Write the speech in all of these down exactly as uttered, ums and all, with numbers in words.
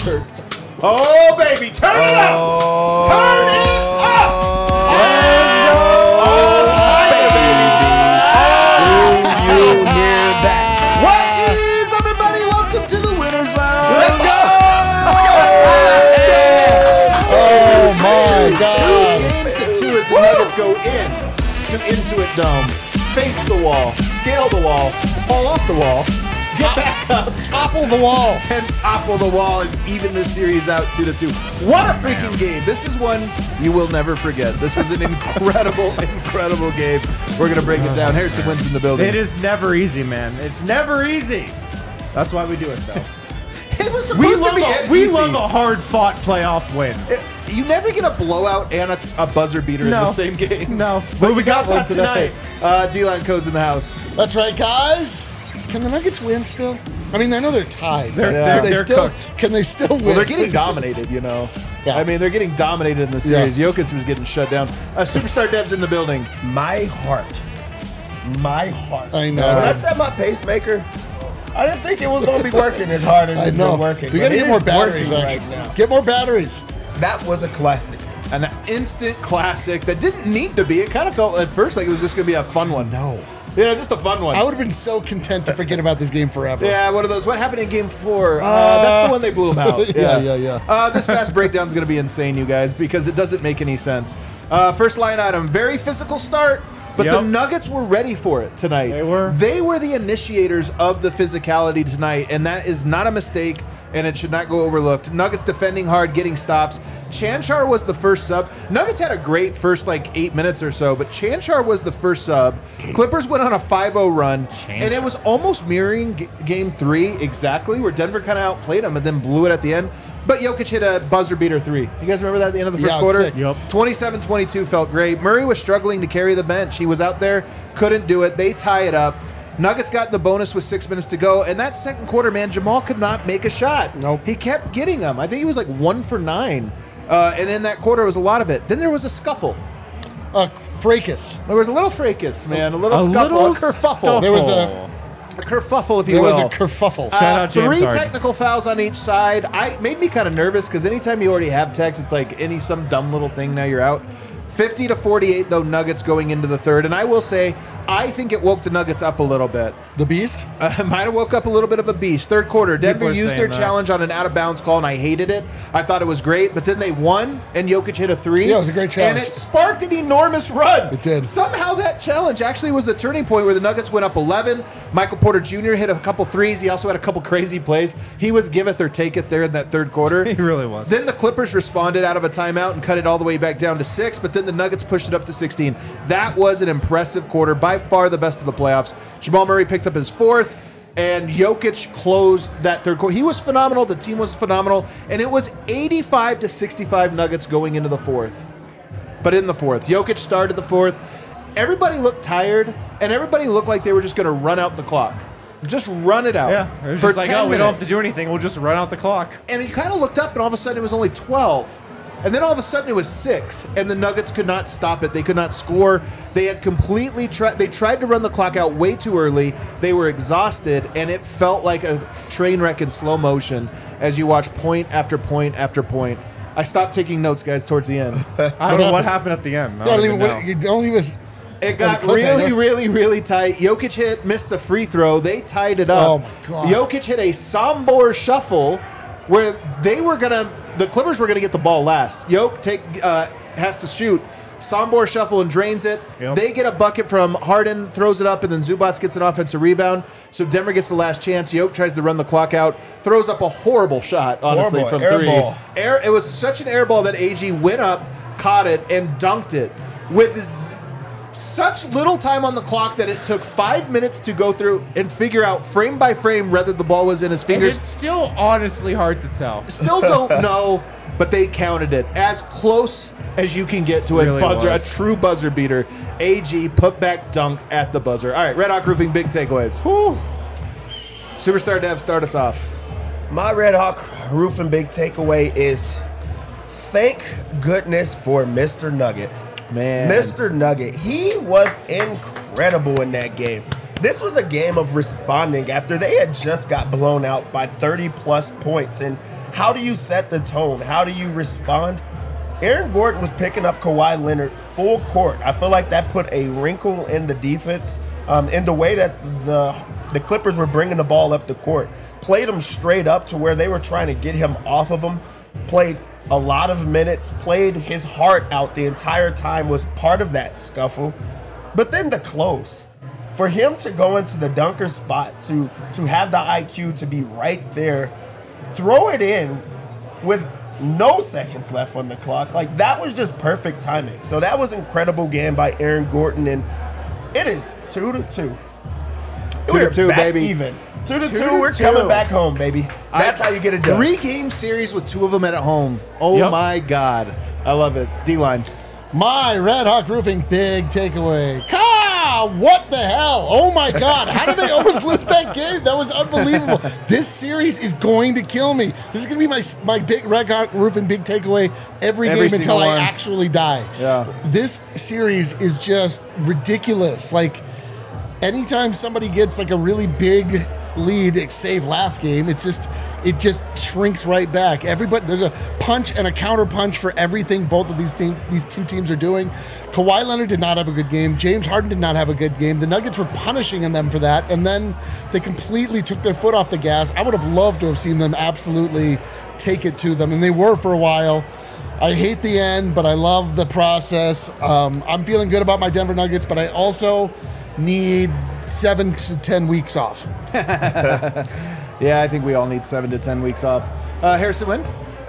Turn. Oh, baby. Turn it up. Oh. Turn it up. Oh, baby. Do you hear that? What is up, everybody? Welcome to the Winners Lounge. Let's go. Oh, my God. Two games to two as the Nuggets go in to Intuit Dome. Face the wall. Scale the wall. Fall off the wall. Get back up. Topple the wall. And topple the wall and even the series out two to two. What a freaking game. This is one you will never forget. This was an incredible, incredible game. We're going to break it down. Harrison Wins in the building. It is never easy, man. It's never easy. That's why we do it, though. It was supposed we to love be a, we easy. love a hard-fought playoff win. It- you never get a blowout and a, a buzzer beater No. in the same game. No. But we we got, got one that tonight. Uh, D-Line Co's in the house. That's right, guys. Can the Nuggets win still? I mean, I know they're tied. They're- Yeah. they're, Can they they're still, cooked. Can they still win? Well, they're getting dominated, you know. Yeah. I mean, they're getting dominated in the series. Jokic was getting shut down. Uh, Superstar Dev's in the building. My heart. My heart. I know. When I set my pacemaker, I didn't think it was going to be working as hard as I it's know. been working. We but got to it get is more batteries working actually. right now. Get more batteries. That was a classic. An instant classic that didn't need to be. It kind of felt at first like it was just going to be a fun one. No. Yeah, just a fun one. I would have been so content to forget about this game forever. Yeah, one of those. What happened in game four? Uh, that's the one they blew him out. Yeah, yeah, yeah. Uh, this fast breakdown is going to be insane, you guys, because it doesn't make any sense. Uh, first line item, very physical start, but Yep. the Nuggets were ready for it tonight. They were. They were the initiators of the physicality tonight, and that is not a mistake, and it should not go overlooked. Nuggets defending hard, getting stops. Chanchar was the first sub. Nuggets had a great first, like, eight minutes or so, but Chanchar was the first sub. Clippers went on a five oh run, and it was almost mirroring g- game three exactly, where Denver kind of outplayed them and then blew it at the end. But Jokic hit a buzzer beater three. You guys remember that at the end of the first Yeah, it was quarter? sick. Yep. twenty-seven twenty-two felt great. Murray was struggling to carry the bench. He was out there, couldn't do it. They tie it up. Nuggets got the bonus with six minutes to go. And that second quarter, man, Jamal could not make a shot. Nope. He kept getting them. I think he was like one for nine. Uh, and in that quarter was a lot of it. Then there was a scuffle. Uh, fracas. There was a little fracas, man. A little A scuffle. little a kerfuffle. scuffle. There was a A kerfuffle, if you there will. was a kerfuffle. Uh, Shout out James three Harden. technical fouls on each side. I made me kind of nervous because anytime you already have techs, it's like any some dumb little thing. Now you're out. fifty to forty-eight though, Nuggets going into the third, and I will say I think it woke the Nuggets up a little bit. The Beast? Uh, might have woke up a little bit of a beast. Third quarter, Denver are used saying their that. challenge on an out of bounds call, and I hated it. I thought it was great, but then they won, and Jokic hit a three. Yeah, it was a great challenge. and it sparked an enormous run. It did. Somehow that challenge actually was the turning point where the Nuggets went up eleven. Michael Porter Junior hit a couple threes. He also had a couple crazy plays. He was giveth or taketh there in that third quarter. He really was. Then the Clippers responded out of a timeout and cut it all the way back down to six, but then the Nuggets pushed it up to sixteen. That was an impressive quarter, by far the best of the playoffs. Jamal Murray picked up his fourth, and Jokic closed that third quarter. He was phenomenal. The team was phenomenal, and it was eighty-five to sixty-five Nuggets going into the fourth. But in the fourth, Jokic started the fourth. Everybody looked tired, and everybody looked like they were just going to run out the clock. Just run it out. Yeah. It was for just like, ten oh, we don't have minutes. to do anything. We'll just run out the clock. And you kind of looked up, and all of a sudden it was only twelve. And then all of a sudden it was six, and the Nuggets could not stop it. They could not score. They had completely tried. They tried to run the clock out way too early. They were exhausted, and it felt like a train wreck in slow motion as you watch point after point after point. I stopped taking notes, guys, towards the end. I don't know what happened at the end. I Yeah, don't don't even even, know. you don't even was It got on a cliffhanger. really, really, really tight. Jokic hit, missed a free throw. They tied it up. Oh, my God. Jokic hit a Sombor shuffle where they were gonna, the Clippers were gonna get the ball last. Jokic take uh, has to shoot. Sombor shuffle and drains it. Yep. They get a bucket from Harden, throws it up, and then Zubats gets an offensive rebound. So Denver gets the last chance. Jokic tries to run the clock out, throws up a horrible shot, honestly, Horrible. from Air three. ball. Air, it was such an air ball that A G went up, caught it, and dunked it with z- such little time on the clock that it took five minutes to go through and figure out frame by frame whether the ball was in his And fingers. it's still honestly hard to tell. Still don't know, but they counted it as close as you can get to a Really buzzer, was. a true buzzer beater. A G put back dunk at the buzzer. All right, Red Hawk Roofing, big takeaways. Whew. Superstar Dev, start us off. My Red Hawk Roofing big takeaway is thank goodness for Mister Nugget. Man. Mister Nugget, he was incredible in that game. This was a game of responding after they had just got blown out by thirty plus points. And how do you set the tone? How do you respond? Aaron Gordon was picking up Kawhi Leonard full court. I feel like that put a wrinkle in the defense, um, in the way that the the Clippers were bringing the ball up the court. Played him straight up to where they were trying to get him off of him. Played a lot of minutes, played his heart out the entire time, was part of that scuffle. But then the close. For him to go into the dunker spot, to to have the I Q to be right there, throw it in with no seconds left on the clock. Like, that was just perfect timing. So that was incredible game by Aaron Gordon, and it is two to two. Two We're to two, back baby. even. Two to Two two, to we're two. coming back home, baby. That's I- how you get it done. Three game series with two of them at home. Oh Yep. my God. I love it. D-line. My Red Hawk Roofing big takeaway. Ka! What the hell? Oh my God. How did they almost lose that game? That was unbelievable. This series is going to kill me. This is going to be my my big Red Hawk Roofing big takeaway every, Every game until single I one. actually die. Yeah. This series is just ridiculous. Like, anytime somebody gets like a really big lead, save last game, it's just it just shrinks right back. Everybody, there's a punch and a counter punch for everything both of these team, these two teams are doing. Kawhi Leonard did not have a good game. James Harden did not have a good game. The Nuggets were punishing them for that, and then they completely took their foot off the gas. I would have loved to have seen them absolutely take it to them, and they were for a while. I hate the end, but I love the process. Um, I'm feeling good about my Denver Nuggets, but I also need seven to ten weeks off. Yeah, I think we all need seven to ten weeks off. Uh, Harrison Wind?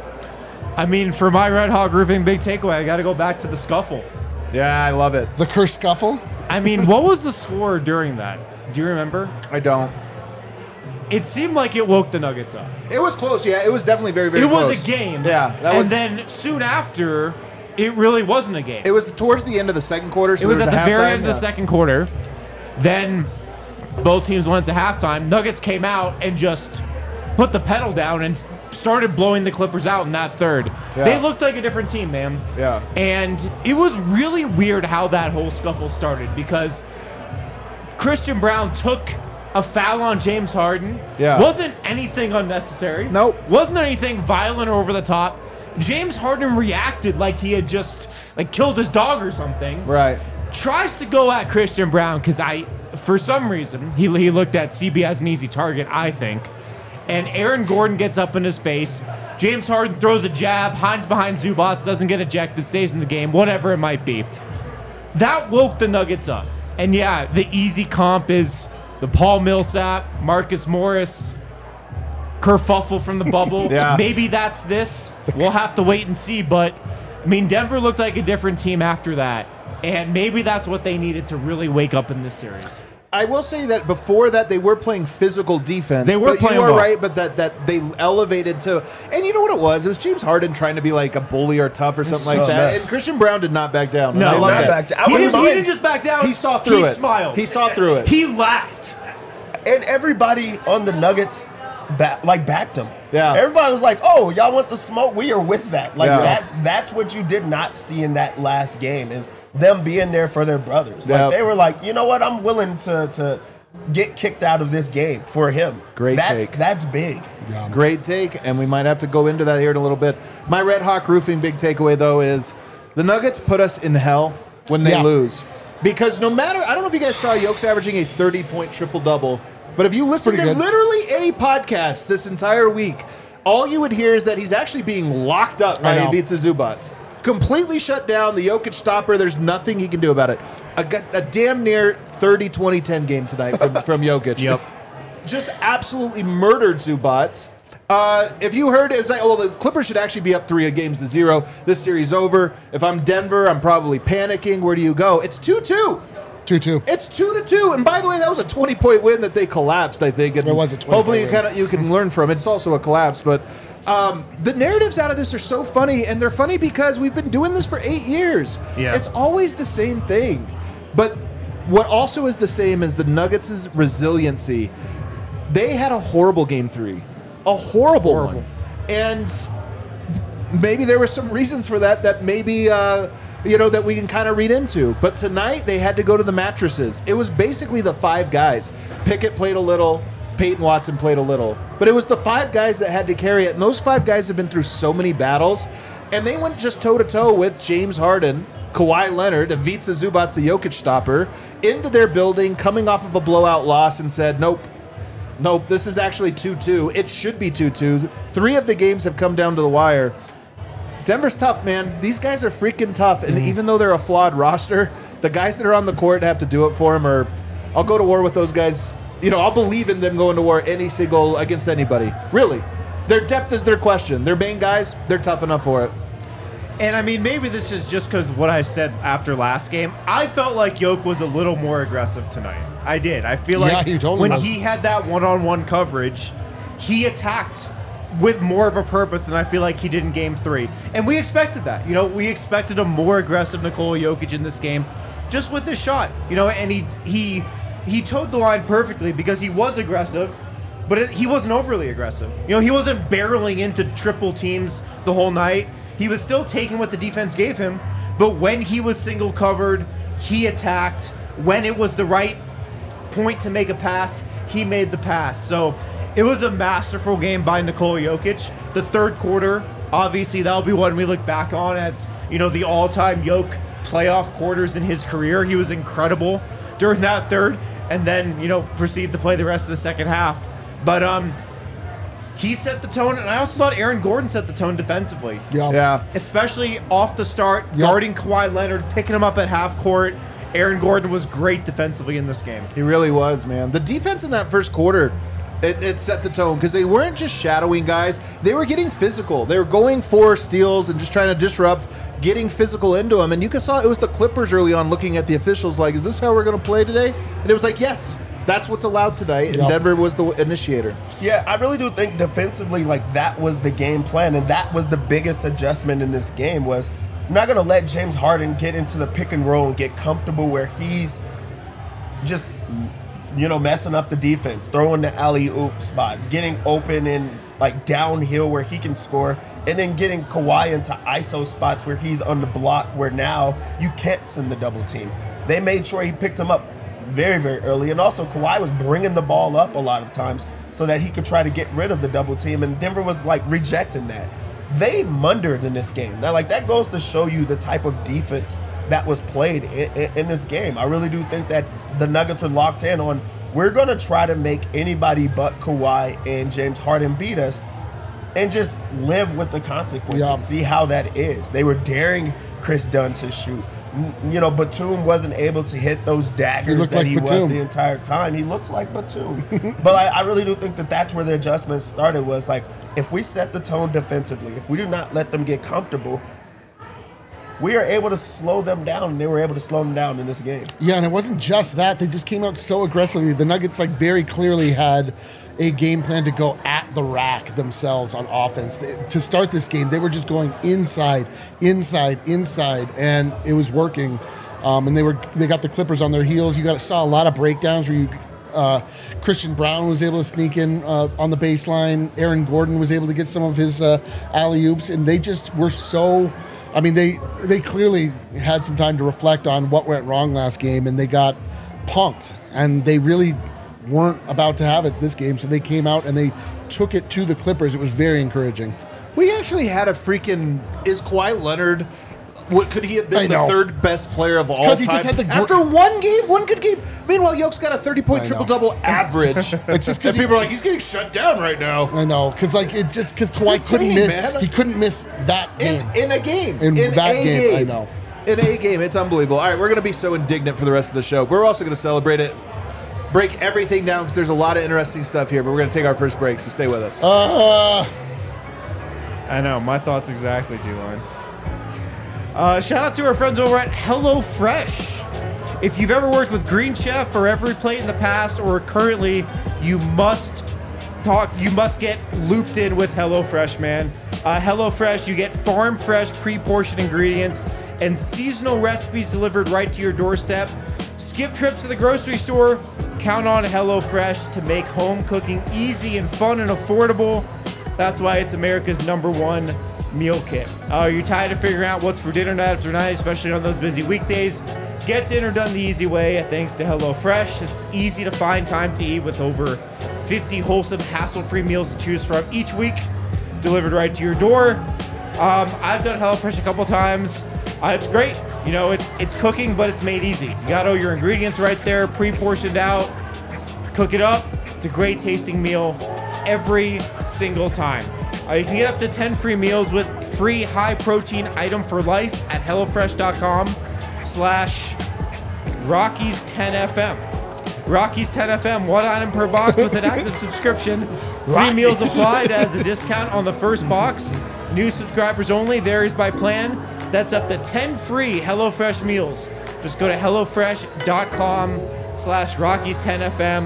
I mean, for my Red Hawk Roofing big takeaway, I got to go back to the scuffle. Yeah, I love it. The curse scuffle. I mean, what was the score during that? Do you remember? I don't. It seemed like it woke the Nuggets up. It was close. Yeah, it was definitely very, very It close. was a game. Yeah, that and was. then soon after, it really wasn't a game. It was towards the end of the second quarter. So It was there at the a very halftime, end of the yeah. second quarter. Then both teams went to halftime. Nuggets came out and just put the pedal down and s- started blowing the Clippers out in that third. Yeah. They looked like a different team, man. Yeah. And it was really weird how that whole scuffle started because Christian Brown took a foul on James Harden. Yeah. Wasn't anything unnecessary. Nope. Wasn't anything violent or over the top. James Harden reacted like he had just like killed his dog or something. Right. Tries to go at Christian Brown because I, for some reason, he, he looked at C B as an easy target, I think. And Aaron Gordon gets up in his face. James Harden throws a jab, hides behind Zubats, doesn't get ejected, stays in the game, whatever it might be. That woke the Nuggets up. And yeah, the easy comp is the Paul Millsap, Marcus Morris, kerfuffle from the bubble. Yeah. Maybe that's this. We'll have to wait and see. But, I mean, Denver looked like a different team after that. And maybe that's what they needed to really wake up in this series. I will say that before that they were playing physical defense. They were but playing You are ball. right, but that that they elevated to, and you know what it was? It was James Harden trying to be like a bully or tough or something like so that. bad. And Christian Brown did not back down. No, I Did love not that. back down. I He wouldn't didn't, he mind. didn't just back down. He saw through he it. smiled. He saw through it. He laughed. And everybody on the Nuggets ba- like backed him. Yeah. Everybody was like, "Oh, y'all want the smoke? We are with that." Like Yeah. that. That's what you did not see in that last game is them being there for their brothers. Yeah. Like they were like, you know what? I'm willing to to get kicked out of this game for him. Great That's take. that's big. Great take, and we might have to go into that here in a little bit. My Red Hawk Roofing big takeaway, though, is the Nuggets put us in hell when they Yeah. lose. Because no matter, I don't know if you guys saw Yoke's averaging a thirty-point triple-double, but if you listen Pretty to good. literally any podcast this entire week, all you would hear is that he's actually being locked up by I know. Ivica Zubats. Completely shut down, the Jokic stopper, there's nothing he can do about it. A, g- a damn near thirty twenty ten game tonight from, from Jokic. Yep. Just absolutely murdered Zubats. Uh, if you heard it, it's like, oh, well, the Clippers should actually be up three games to zero. This series over. If I'm Denver, I'm probably panicking. Where do you go? It's two two. two two. It's two to two. And by the way, that was a twenty point win that they collapsed, I think. And It was a twenty hopefully you point win. kind of you can learn from it. It's also a collapse, but um, the narratives out of this are so funny, and they're funny because we've been doing this for eight years. Yeah. It's always the same thing. But what also is the same is the Nuggets' resiliency. They had a horrible game three. A horrible, Horrible. one. And maybe there were some reasons for that that maybe uh, you know that we can kind of read into. But tonight they had to go to the mattresses. It was basically the five guys. Pickett played a little. Peyton Watson played a little. But it was the five guys that had to carry it. And those five guys have been through so many battles. And they went just toe-to-toe with James Harden, Kawhi Leonard, Ivica Zubac, the Jokic stopper, into their building, coming off of a blowout loss, and said, nope, nope, this is actually two two. It should be two two. Three of the games have come down to the wire. Denver's tough, man. These guys are freaking tough. And mm-hmm. even though they're a flawed roster, the guys that are on the court have to do it for them, or I'll go to war with those guys. You know, I'll believe in them going to war any single against anybody. Really. Their depth is their question. Their main guys, they're tough enough for it. And I mean, maybe this is just because what I said after last game. I felt like Yoke was a little more aggressive tonight. I did. I feel like yeah, totally when was. he had that one-on-one coverage, he attacked with more of a purpose than I feel like he did in game three. And we expected that. You know, we expected a more aggressive Nikola Jokic in this game just with his shot. You know, and he he he towed the line perfectly because he was aggressive, but it, he wasn't overly aggressive. You know, he wasn't barreling into triple teams the whole night. He was still taking what the defense gave him, but when he was single covered, he attacked. When it was the right point to make a pass, he made the pass. So it was a masterful game by Nikola Jokic. The third quarter, obviously, that'll be one we look back on as, you know, the all-time Jokic playoff quarters in his career. He was incredible during that third, and then, you know, proceed to play the rest of the second half. But um, he set the tone, and I also thought Aaron Gordon set the tone defensively. Yeah. Yeah. Especially off the start, Yep. guarding Kawhi Leonard, picking him up at half court. Aaron Gordon was great defensively in this game. He really was, man. The defense in that first quarter, it, it set the tone because they weren't just shadowing guys. They were getting physical. They were going for steals and just trying to disrupt, getting physical into them. And you saw it was the Clippers early on looking at the officials like, is this how we're going to play today? And it was like, yes, that's what's allowed tonight. And Yep. Denver was the initiator. Yeah, I really do think defensively, like, that was the game plan, and that was the biggest adjustment in this game was I'm not going to let James Harden get into the pick and roll and get comfortable where he's just, you know, messing up the defense, throwing the alley-oop spots, getting open and, like, downhill where he can score, and then getting Kawhi into I S O spots where he's on the block where now you can't send the double team. They made sure he picked him up very, very early. And also Kawhi was bringing the ball up a lot of times so that he could try to get rid of the double team. And Denver was like rejecting that. They mundered in this game. Now, like, that goes to show you the type of defense that was played in, in, in this game. I really do think that the Nuggets were locked in on, we're going to try to make anybody but Kawhi and James Harden beat us and just live with the consequences. Yeah. See how that is. They were daring Chris Dunn to shoot. You know, Batum wasn't able to hit those daggers He looked that like he was Batum. the entire time. He looks like Batum. But I, I really do think that that's where the adjustments started was like, if we set the tone defensively, if we do not let them get comfortable, we are able to slow them down, and they were able to slow them down in this game. Yeah, and it wasn't just that. They just came out so aggressively. The Nuggets, like, very clearly had a game plan to go at the rack themselves on offense. They, to start this game, they were just going inside, inside, inside, and it was working. Um, and they were they got the Clippers on their heels. You got saw a lot of breakdowns where you, uh, Christian Brown was able to sneak in uh, on the baseline. Aaron Gordon was able to get some of his uh, alley-oops, and they just were so... I mean, they they clearly had some time to reflect on what went wrong last game, and they got punked. And they really weren't about to have it this game, so they came out and they took it to the Clippers. It was very encouraging. We actually had a freaking... Is Kawhi Leonard... What, could he have I been the know. third best player of all 'cause time? he just had the gr- After one game, one good game. Meanwhile, Yoke's got a thirty-point I know. triple-double average. It's just 'cause and he- people are like, he's getting shut down right now. I know, because like it just because Kawhi It's couldn't insane, miss, man. he couldn't miss that game. In, in a game. In that a game, I know. In a game. It's unbelievable. All right, we're going to be so indignant for the rest of the show. We're also going to celebrate it, break everything down, because there's a lot of interesting stuff here, but we're going to take our first break, so stay with us. Uh, I know, my thoughts exactly, D-Line. Uh, shout out to our friends over at HelloFresh. If you've ever worked with Green Chef or every plate in the past or currently, you must talk. You must get looped in with HelloFresh, man. Uh, HelloFresh, you get farm fresh, pre-portioned ingredients and seasonal recipes delivered right to your doorstep. Skip trips to the grocery store. Count on HelloFresh to make home cooking easy and fun and affordable. That's why it's America's number one meal kit. Are uh, you tired of figuring out what's for dinner night after night, especially on those busy weekdays? Get dinner done the easy way thanks to HelloFresh. It's easy to find time to eat with over fifty wholesome, hassle-free meals to choose from each week, delivered right to your door. Um, I've done HelloFresh a couple times. Uh, it's great. You know, it's it's cooking, but it's made easy. You got all your ingredients right there, pre-portioned out. Cook it up. It's a great tasting meal every single time. Uh, you can get up to ten free meals with free high-protein item for life at HelloFresh.com slash Rockies ten F M. Rockies ten F M, one item per box with an active subscription. Free meals applied as a discount on the first box. New subscribers only, varies by plan. That's up to ten free HelloFresh meals. Just go to HelloFresh.com slash Rockies ten F M.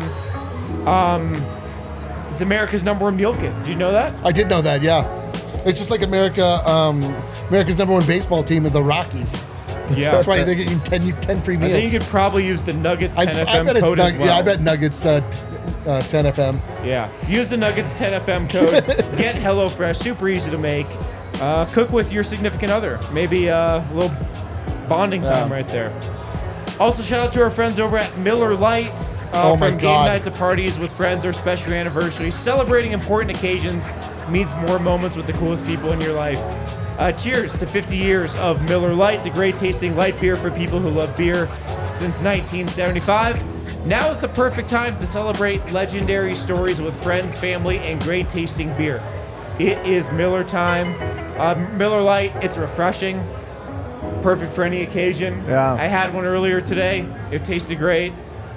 Um, it's America's number one meal kit. Did you know that? I did know that, yeah. It's just like America, um, America's number one baseball team is the Rockies. Yeah. That's why they're getting ten, ten free meals. I think you could probably use the Nuggets ten I, F I M bet it's code as Nug- well. Yeah, I bet Nuggets uh, t- uh, ten F M. Yeah. Use the Nuggets ten F M code. Get HelloFresh. Super easy to make. Uh, cook with your significant other. Maybe uh, a little bonding time Yeah. right there. Also, shout out to our friends over at Miller Lite. Uh, Oh my from game God. nights to parties with friends or special anniversaries, celebrating important occasions means more moments with the coolest people in your life. Uh, cheers to fifty years of Miller Lite, the great tasting light beer for people who love beer since nineteen seventy-five. Now is the perfect time to celebrate legendary stories with friends, family, and great tasting beer. It is Miller time. Uh, Miller Lite, it's refreshing, perfect for any occasion. Yeah. I had one earlier today. It tasted great.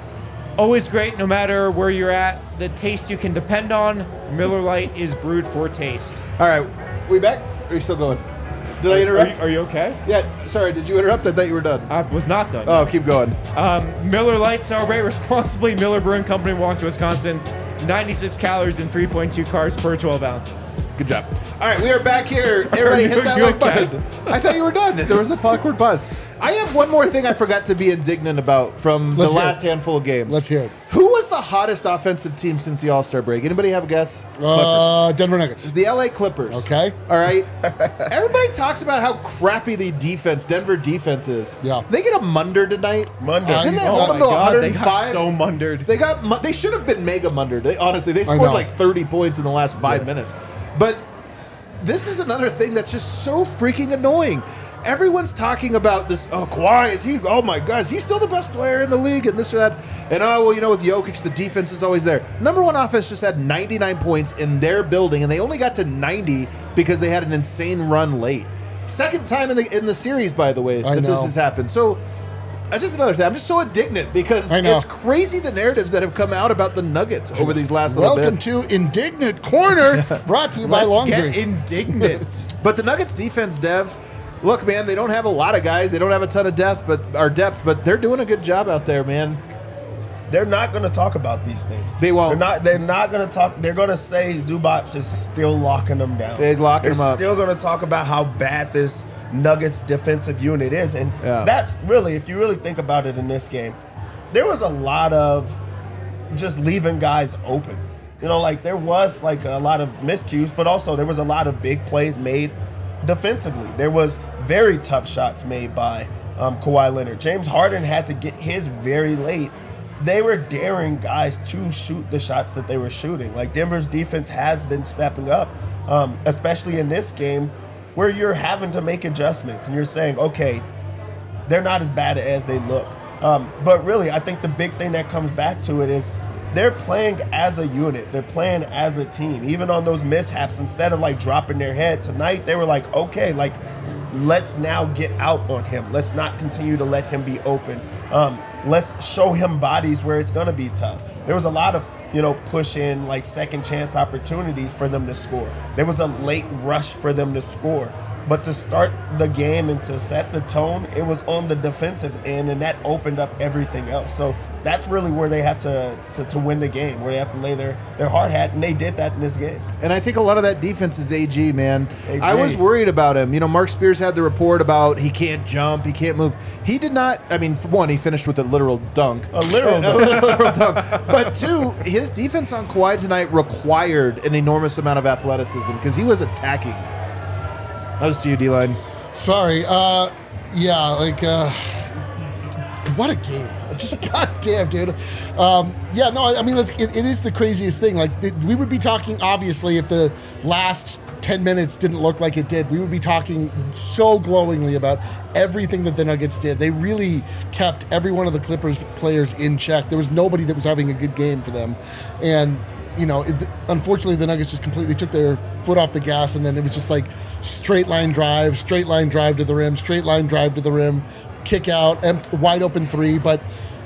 Always great, no matter where you're at. The taste you can depend on. Miller Lite is brewed for taste. All right, we back? Or are you still going? Did I Are interrupt? you, are you okay? Yeah, sorry, did you interrupt? I thought you were done. I was not done. Oh, keep going. Um, Miller Lite, celebrate responsibly. Miller Brewing Company, Milwaukee, Wisconsin. ninety-six calories and three point two carbs per twelve ounces. Good job. All right, we are back here. Everybody you- hit that you like okay? button. I thought you were done. There was a awkward pause. I have one more thing I forgot to be indignant about from Let's the hear last it. handful of games. Let's hear it. Who was the hottest offensive team since the All-Star break? Anybody have a guess? Uh, Denver Nuggets. It's the L A Clippers. Okay. All right. Everybody talks about how crappy the defense, Denver defense is. Yeah. They get a munder tonight. Monday. Uh, Didn't they Oh hold my them to God, they one got oh five? so mundered. They got. mu- They should have been mega mundered. They, honestly, they I scored know. like thirty points in the last five minutes. But this is another thing that's just so freaking annoying. Everyone's talking about this. Oh, Kawhi, is he? Oh my God, is he still the best player in the league? And this or that. And oh, well, you know, with Jokic, the defense is always there. Number one offense just had ninety-nine points in their building, and they only got to ninety because they had an insane run late. Second time in the in the series, by the way, I that this know. has happened. So. That's just another thing. I'm just so indignant because I know. it's crazy the narratives that have come out about the Nuggets over these last little Welcome bit. to Indignant Corner, brought to you by Let's Long get Drink. indignant. But the Nuggets defense, Dev, look, man, they don't have a lot of guys. They don't have a ton of depth, but or depth, but they're doing a good job out there, man. They're not going to talk about these things. They won't. They're not. They're not going to talk. They're going to say Zubac is still locking them down. Yeah, he's locking They're them up. still going to talk about how bad this Nuggets defensive unit is, and Yeah. that's really, if you really think about it in this game, there was a lot of just leaving guys open. You know, like there was like a lot of miscues, but also there was a lot of big plays made defensively. There was very tough shots made by um, Kawhi Leonard. James Harden had to get his very late. They were daring guys to shoot the shots that they were shooting. Like Denver's defense has been stepping up, um, especially in this game where you're having to make adjustments and you're saying, okay, they're not as bad as they look. Um, but really, I think the big thing that comes back to it is they're playing as a unit. They're playing as a team. Even on those mishaps, instead of like dropping their head tonight, they were like, okay, like let's now get out on him. Let's not continue to let him be open. Um, let's show him bodies where it's going to be tough. There was a lot of, you know, push in like second chance opportunities for them to score. There was a late rush for them to score. But to start the game and to set the tone, it was on the defensive end, and that opened up everything else. So that's really where they have to to, to win the game, where they have to lay their, their hard hat, and they did that in this game. And I think a lot of that defense is A G, man. A G. I was worried about him. You know, Mark Spears had the report about he can't jump, he can't move. He did not. I mean, for one, he finished with a literal dunk. A literal a literal dunk. But two, his defense on Kawhi tonight required an enormous amount of athleticism because he was attacking. That was to you, D-Line. Sorry. Uh, yeah, like uh, what a game! Just goddamn, dude. Um, yeah, no, I, I mean, let's, it, it is the craziest thing. Like th- we would be talking, obviously, if the last ten minutes didn't look like it did, we would be talking so glowingly about everything that the Nuggets did. They really kept every one of the Clippers players in check. There was nobody that was having a good game for them, and you know, it, unfortunately, the Nuggets just completely took their foot off the gas, and then it was just like straight line drive, straight line drive to the rim, straight line drive to the rim, kick out, empt- wide open three. But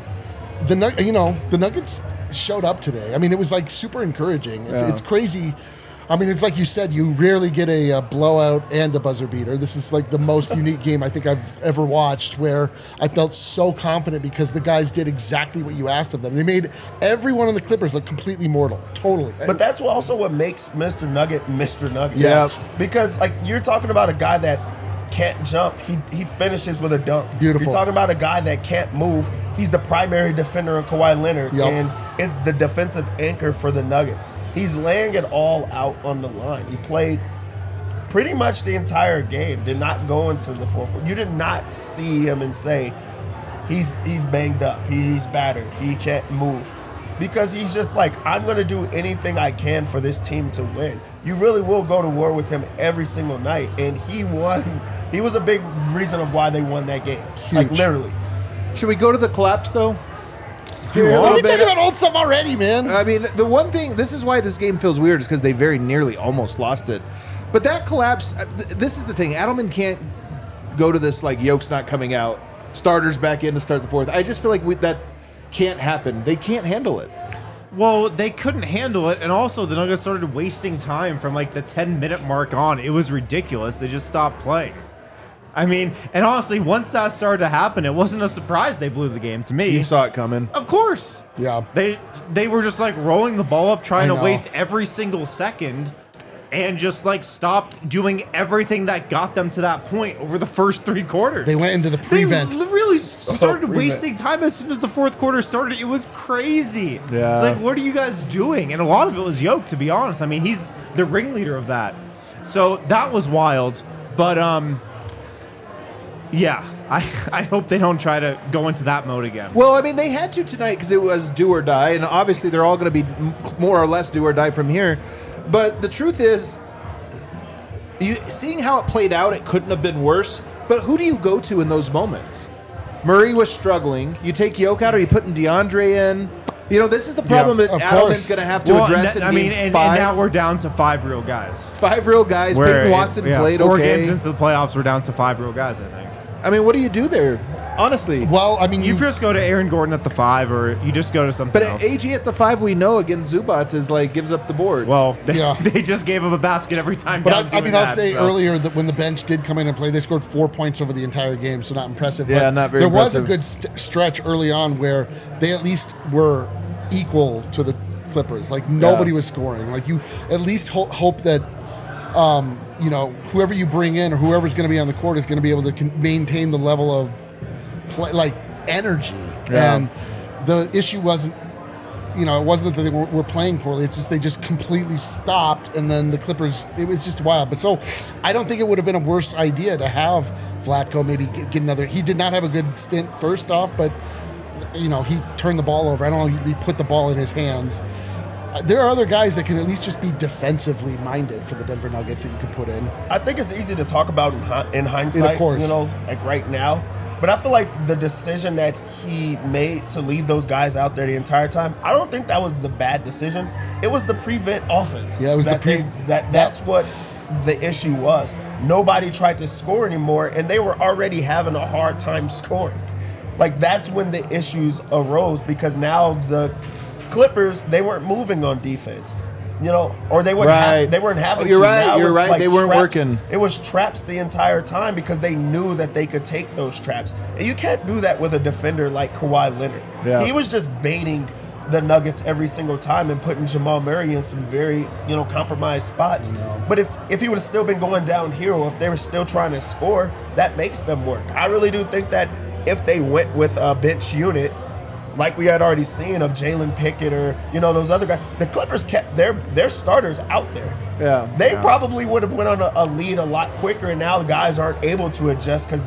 the Nug- you know, the Nuggets showed up today. I mean, it was like super encouraging. It's, Yeah. it's crazy. I mean, it's like you said, you rarely get a, a blowout and a buzzer beater. This is like the most unique game I think I've ever watched, where I felt so confident because the guys did exactly what you asked of them. They made every one of the Clippers look completely mortal, totally. But that's also what makes Mister Nugget Mister Nugget. Yes. Because like you're talking about a guy that can't jump, he he finishes with a dunk. Beautiful. You're talking about a guy that can't move. He's the primary defender of Kawhi Leonard Yep. and is the defensive anchor for the Nuggets. He's laying it all out on the line. He played pretty much the entire game. Did not go into the fourth quarter. You did not see him and say he's he's banged up. He's battered. He can't move. Because he's just like, I'm going to do anything I can for this team to win. You really will go to war with him every single night. And he won. He was a big reason of why they won that game. Like, Huge. literally. Should we go to the collapse, though? Why a are little we talking bit- about old stuff already, man? I mean, the one thing, this is why this game feels weird, is because they very nearly almost lost it. But that collapse, uh, th- this is the thing. Adelman can't go to this, like, Yoke's not coming out, starters back in to start the fourth. I just feel like we, that can't happen. They can't handle it. Well, they couldn't handle it, and also the Nuggets started wasting time from like the ten minute mark on. It was ridiculous. They just stopped playing. I mean, and honestly, once that started to happen, it wasn't a surprise they blew the game to me. You saw it coming. Of course. Yeah. They they were just like rolling the ball up, trying I to know. waste every single second, and just like stopped doing everything that got them to that point over the first three quarters. They went into the prevent. They really started prevent. wasting time as soon as the fourth quarter started. It was crazy. Yeah. It's like, what are you guys doing? And a lot of it was Yoke, to be honest. I mean, he's the ringleader of that. So that was wild. But um, yeah, I I hope they don't try to go into that mode again. Well, I mean, they had to tonight because it was do or die, and obviously they're all going to be m- more or less do or die from here. But the truth is, you, seeing how it played out, it couldn't have been worse. But who do you go to in those moments? Murray was struggling. You take Yoke out, or you putting DeAndre in? You know, this is the problem Yeah, that of Adelman's course. going to have to Well, address and in that- I game mean, and, five. and now we're down to five real guys. Five real guys. Where Peyton it- Watson yeah, played four okay. games into the playoffs, we're down to five real guys, I think. I mean, what do you do there? Honestly. Well, I mean, You you, just go to Aaron Gordon at the five, or you just go to something But else. A G at the five, we know against Zubats is like gives up the board. Well, they, Yeah. they just gave him a basket every time. But down I, I doing mean, I'll that, say so. earlier that when the bench did come in and play, they scored four points over the entire game, so not impressive. Yeah, but not very There was a impressive. good st- stretch early on where they at least were equal to the Clippers. Like nobody Yeah. was scoring. Like you at least ho- hope that um, you know whoever you bring in or whoever's going to be on the court is going to be able to con- maintain the level of play, like energy. Yeah. And the issue wasn't. You know, it wasn't that they were, were playing poorly. It's just they just completely stopped, and then the Clippers. It was just wild. But so, I don't think it would have been a worse idea to have Vlatko maybe get, get another. He did not have a good stint first off, but you know he turned the ball over. I don't know. He put the ball in his hands. Uh, There are other guys that can at least just be defensively minded for the Denver Nuggets that you can put in. I think it's easy to talk about in, hi- in hindsight, course. you know, like right now. But I feel like the decision that he made to leave those guys out there the entire time, I don't think that was the bad decision. It was the prevent offense. Yeah, it was the that pre- they- that that's what the issue was. Nobody tried to score anymore, and they were already having a hard time scoring. Like that's when the issues arose because now the Clippers, they weren't moving on defense. You know, or they weren't Right. have, they weren't having Oh, you're to. right, Now you're it's right. like They weren't traps. working. It was traps the entire time because they knew that they could take those traps. And you can't do that with a defender like Kawhi Leonard. Yeah. He was just baiting the Nuggets every single time and putting Jamal Murray in some very, you know, compromised spots. But if if he would have still been going downhill, or if they were still trying to score, that makes them work. I really do think that if they went with a bench unit, like we had already seen of Jalen Pickett or, you know, those other guys, the Clippers kept their their starters out there. Yeah. They probably would have went on a, a lead a lot quicker, and now the guys aren't able to adjust because they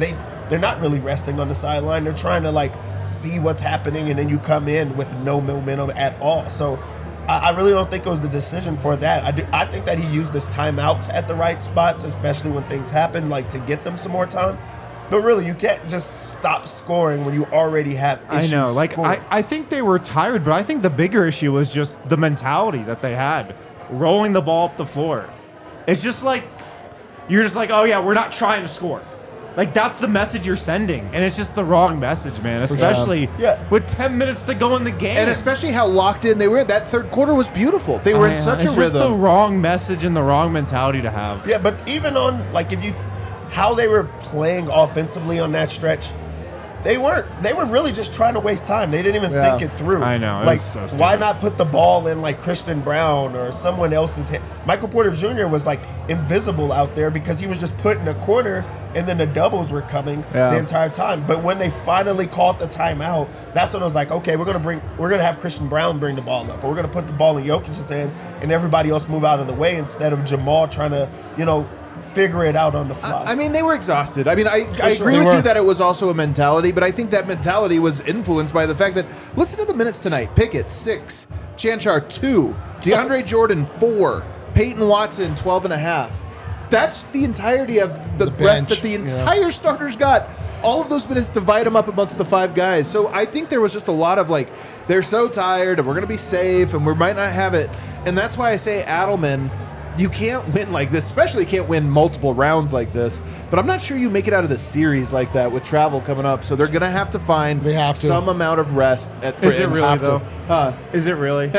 they're not really resting on the sideline. They're trying to like see what's happening, and then you come in with no momentum at all. So I, I really don't think it was the decision for that. I do, I think that he used his timeouts at the right spots, especially when things happen, like to get them some more time. But really, you can't just stop scoring when you already have issues I know. Like, scoring. I, I think they were tired, but I think the bigger issue was just the mentality that they had, rolling the ball up the floor. It's just like, you're just like, oh, yeah, we're not trying to score. Like, that's the message you're sending. And it's just the wrong message, man, especially Yeah. with ten minutes to go in the game. And especially how locked in they were. That third quarter was beautiful. They were in I- such it's a just the rhythm. wrong message and the wrong mentality to have. Yeah, but even on, like, if you, how they were playing offensively on that stretch, they weren't, they were really just trying to waste time. They didn't even Yeah. think it through. I know, it Like, was so stupid. why not put the ball in, like, Christian Brown or someone else's hand? Michael Porter Junior was, like, invisible out there because he was just put in a corner, and then the doubles were coming Yeah. the entire time. But when they finally called the timeout, that's when it was like, okay, we're gonna bring, we're gonna have Christian Brown bring the ball up, or we're gonna put the ball in Jokic's hands, and everybody else move out of the way instead of Jamal trying to, you know, figure it out on the fly. I mean, they were exhausted. I mean, I, I sure. agree They with were. you that it was also a mentality, but I think that mentality was influenced by the fact that, listen to the minutes tonight. Pickett, six. Chanchar, two. DeAndre Jordan, four. Peyton Watson, twelve and a half. That's the entirety of the, The rest bench, that the yeah. entire starters got. All of those minutes, divide them up amongst the five guys. So I think there was just a lot of like, they're so tired and we're going to be safe and we might not have it. And that's why I say Adelman, you can't win like this, especially can't win multiple rounds like this. But I'm not sure you make it out of the series like that with travel coming up. So they're going to have to find They have to. some amount of rest. At, Is it and really, have to- though? Huh? Is it really?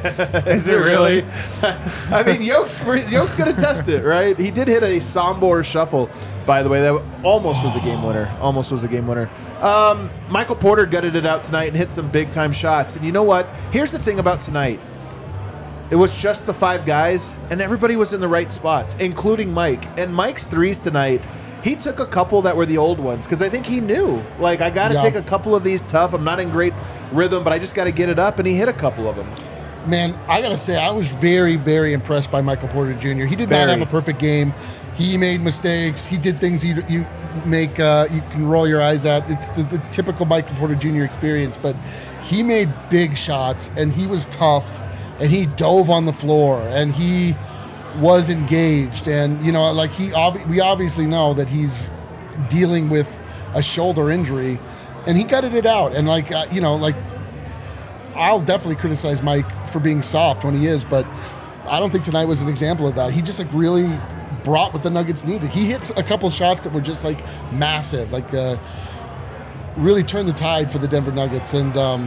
Is it really? I mean, Yoke's, Yoke's going to test it, right? He did hit a Sombor shuffle, by the way. That almost was a game winner. Almost was a game winner. Um, Michael Porter gutted it out tonight and hit some big-time shots. And you know what? Here's the thing about tonight. It was just the five guys, and everybody was in the right spots, including Mike. And Mike's threes tonight, he took a couple that were the old ones because I think he knew, like, I got to Yeah. take a couple of these tough. I'm not in great rhythm, but I just got to get it up, and he hit a couple of them. Man, I gotta say, I was very, very impressed by Michael Porter Junior He did Very. not have a perfect game. He made mistakes. He did things you you make uh, you can roll your eyes at. It's the, the typical Michael Porter Junior experience. But he made big shots, and he was tough, and he dove on the floor, and he was engaged. And you know, like he, obvi- we obviously know that he's dealing with a shoulder injury, and he gutted it out. And like uh, you know, like. I'll definitely criticize Mike for being soft when he is, but I don't think tonight was an example of that. He just like really brought what the Nuggets needed. He hit a couple shots that were just like massive, like uh, really turned the tide for the Denver Nuggets. And um,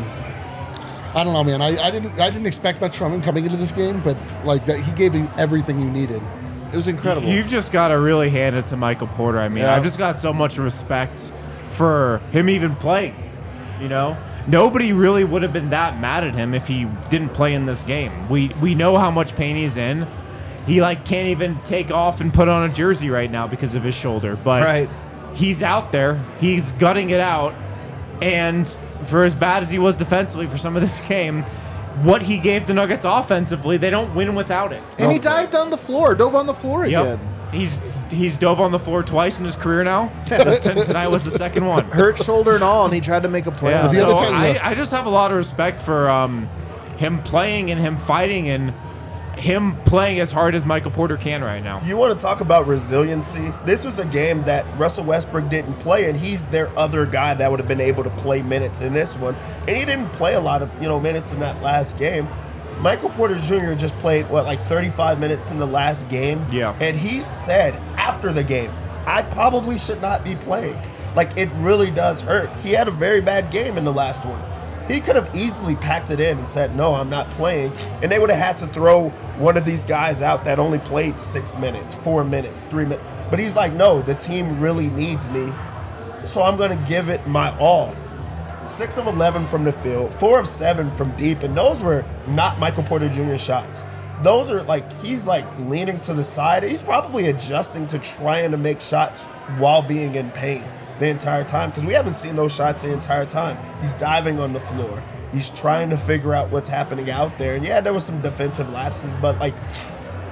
I don't know, man. I, I didn't I didn't expect much from him coming into this game, but like that, he gave you everything you needed. It was incredible. You've just got to really hand it to Michael Porter. I mean, Yeah. I've just got so much respect for him even playing, you know? Nobody really would have been that mad at him if he didn't play in this game. We we know how much pain he's in. He like can't even take off and put on a jersey right now because of his shoulder. But Right. he's out there. He's gutting it out. And for as bad as he was defensively for some of this game, what he gave the Nuggets offensively, they don't win without it. and he dived on the floor, dove on the floor Yep. again. He's he's dove on the floor twice in his career now. This- Tonight was the second one. Hurt shoulder and all, and he tried to make a play. Yeah, on The it. other so time, I, yeah. I just have a lot of respect for um, him playing and him fighting and him playing as hard as Michael Porter can right now. You want to talk about resiliency? This was a game that Russell Westbrook didn't play, and he's their other guy that would have been able to play minutes in this one. And he didn't play a lot of you know minutes in that last game. Michael Porter Junior just played what like thirty-five minutes in the last game. Yeah. And he said after the game, I probably should not be playing. Like it really does hurt. He had a very bad game in the last one. He could have easily packed it in and said, no, I'm not playing. And they would have had to throw one of these guys out that only played six minutes, four minutes, three minutes. But he's like, no, the team really needs me. So I'm going to give it my all. Six of eleven from the field, four of seven from deep. And those were not Michael Porter Junior shots. Those are like, he's like leaning to the side. He's probably adjusting to trying to make shots while being in pain the entire time, because we haven't seen those shots the entire time. He's diving on the floor. He's trying to figure out what's happening out there. And yeah, there was some defensive lapses, but like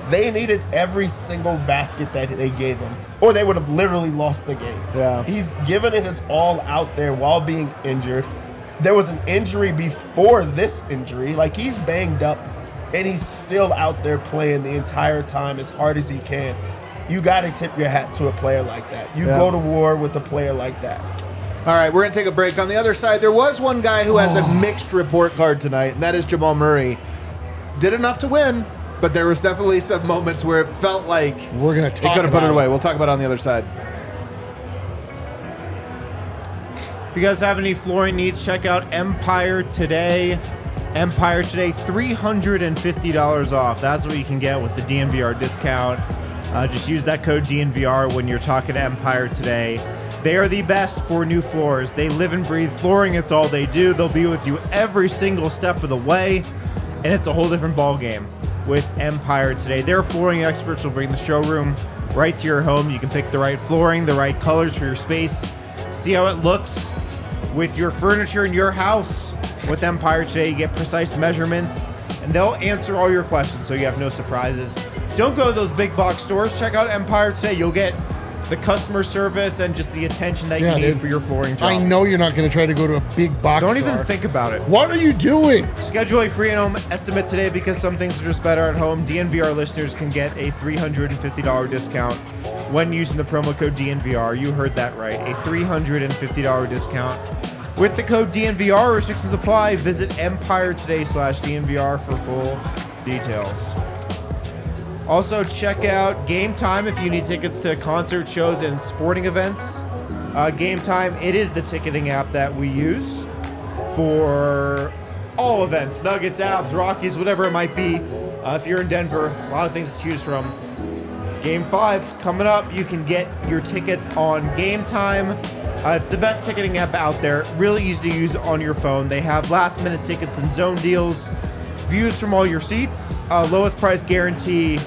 They needed every single basket that they gave him, or they would have literally lost the game. Yeah. He's given it his all out there while being injured. There was an injury before this injury. Like, he's banged up, and he's still out there playing the entire time as hard as he can. You got to tip your hat to a player like that. You Yeah. go to war with a player like that. All right, we're going to take a break. On the other side, there was one guy who has a mixed report card tonight, and that is Jamal Murray. Did enough to win, but there was definitely some moments where it felt like We're gonna he talk could have put about it away. it. We'll talk about it on the other side. If you guys have any flooring needs, check out Empire Today. Empire Today, three hundred fifty dollars off. That's what you can get with the D N V R discount. Uh, just use that code D N V R when you're talking to Empire Today. They are the best for new floors. They live and breathe flooring. It's all they do. They'll be with you every single step of the way, and it's a whole different ball game with Empire Today. Their flooring experts will bring the showroom right to your home. You can pick the right flooring, the right colors for your space, see how it looks with your furniture in your house. With Empire Today, you get precise measurements, and they'll answer all your questions so you have no surprises. Don't go to those big box stores. Check out Empire Today. You'll get the customer service and just the attention that Yeah, you need dude. for your flooring job. I know you're not going to try to go to a big box Don't store. even think about it. What are you doing? Schedule a free in-home estimate today because some things are just better at home. D N V R listeners can get a three hundred fifty dollars discount when using the promo code D N V R. You heard that right. A three hundred fifty dollars discount. With the code D N V R, restrictions apply. Visit Empire Today slash D N V R for full details. Also, check out Game Time if you need tickets to concert shows and sporting events. Uh, Game Time, it is the ticketing app that we use for all events, Nuggets, Avs, Rockies, whatever it might be. Uh, if you're in Denver, a lot of things to choose from. Game five coming up. You can get your tickets on Game Time. Uh, it's the best ticketing app out there. Really easy to use on your phone. They have last minute tickets and zone deals, views from all your seats, uh, lowest price guarantee,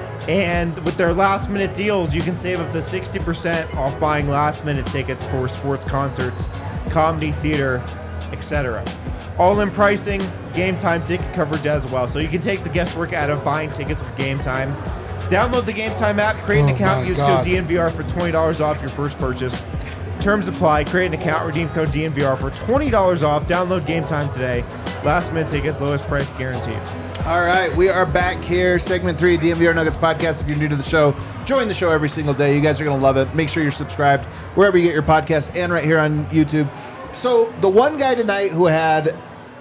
and with their last minute deals, you can save up to sixty percent off buying last minute tickets for sports concerts, comedy, theater, et cetera. All in pricing, Game Time ticket coverage as well. So you can take the guesswork out of buying tickets with Game Time. Download the Game Time app, create an Oh account, my use God. code D N V R for twenty dollars off your first purchase. Terms apply. Create an account, redeem code D N V R for twenty dollars off. Download Game Time today. Last minute tickets, lowest price guaranteed. All right, we are back here. Segment three, D N V R Nuggets podcast. If you're new to the show, join the show every single day. You guys are going to love it. Make sure you're subscribed wherever you get your podcasts and right here on YouTube. So the one guy tonight who had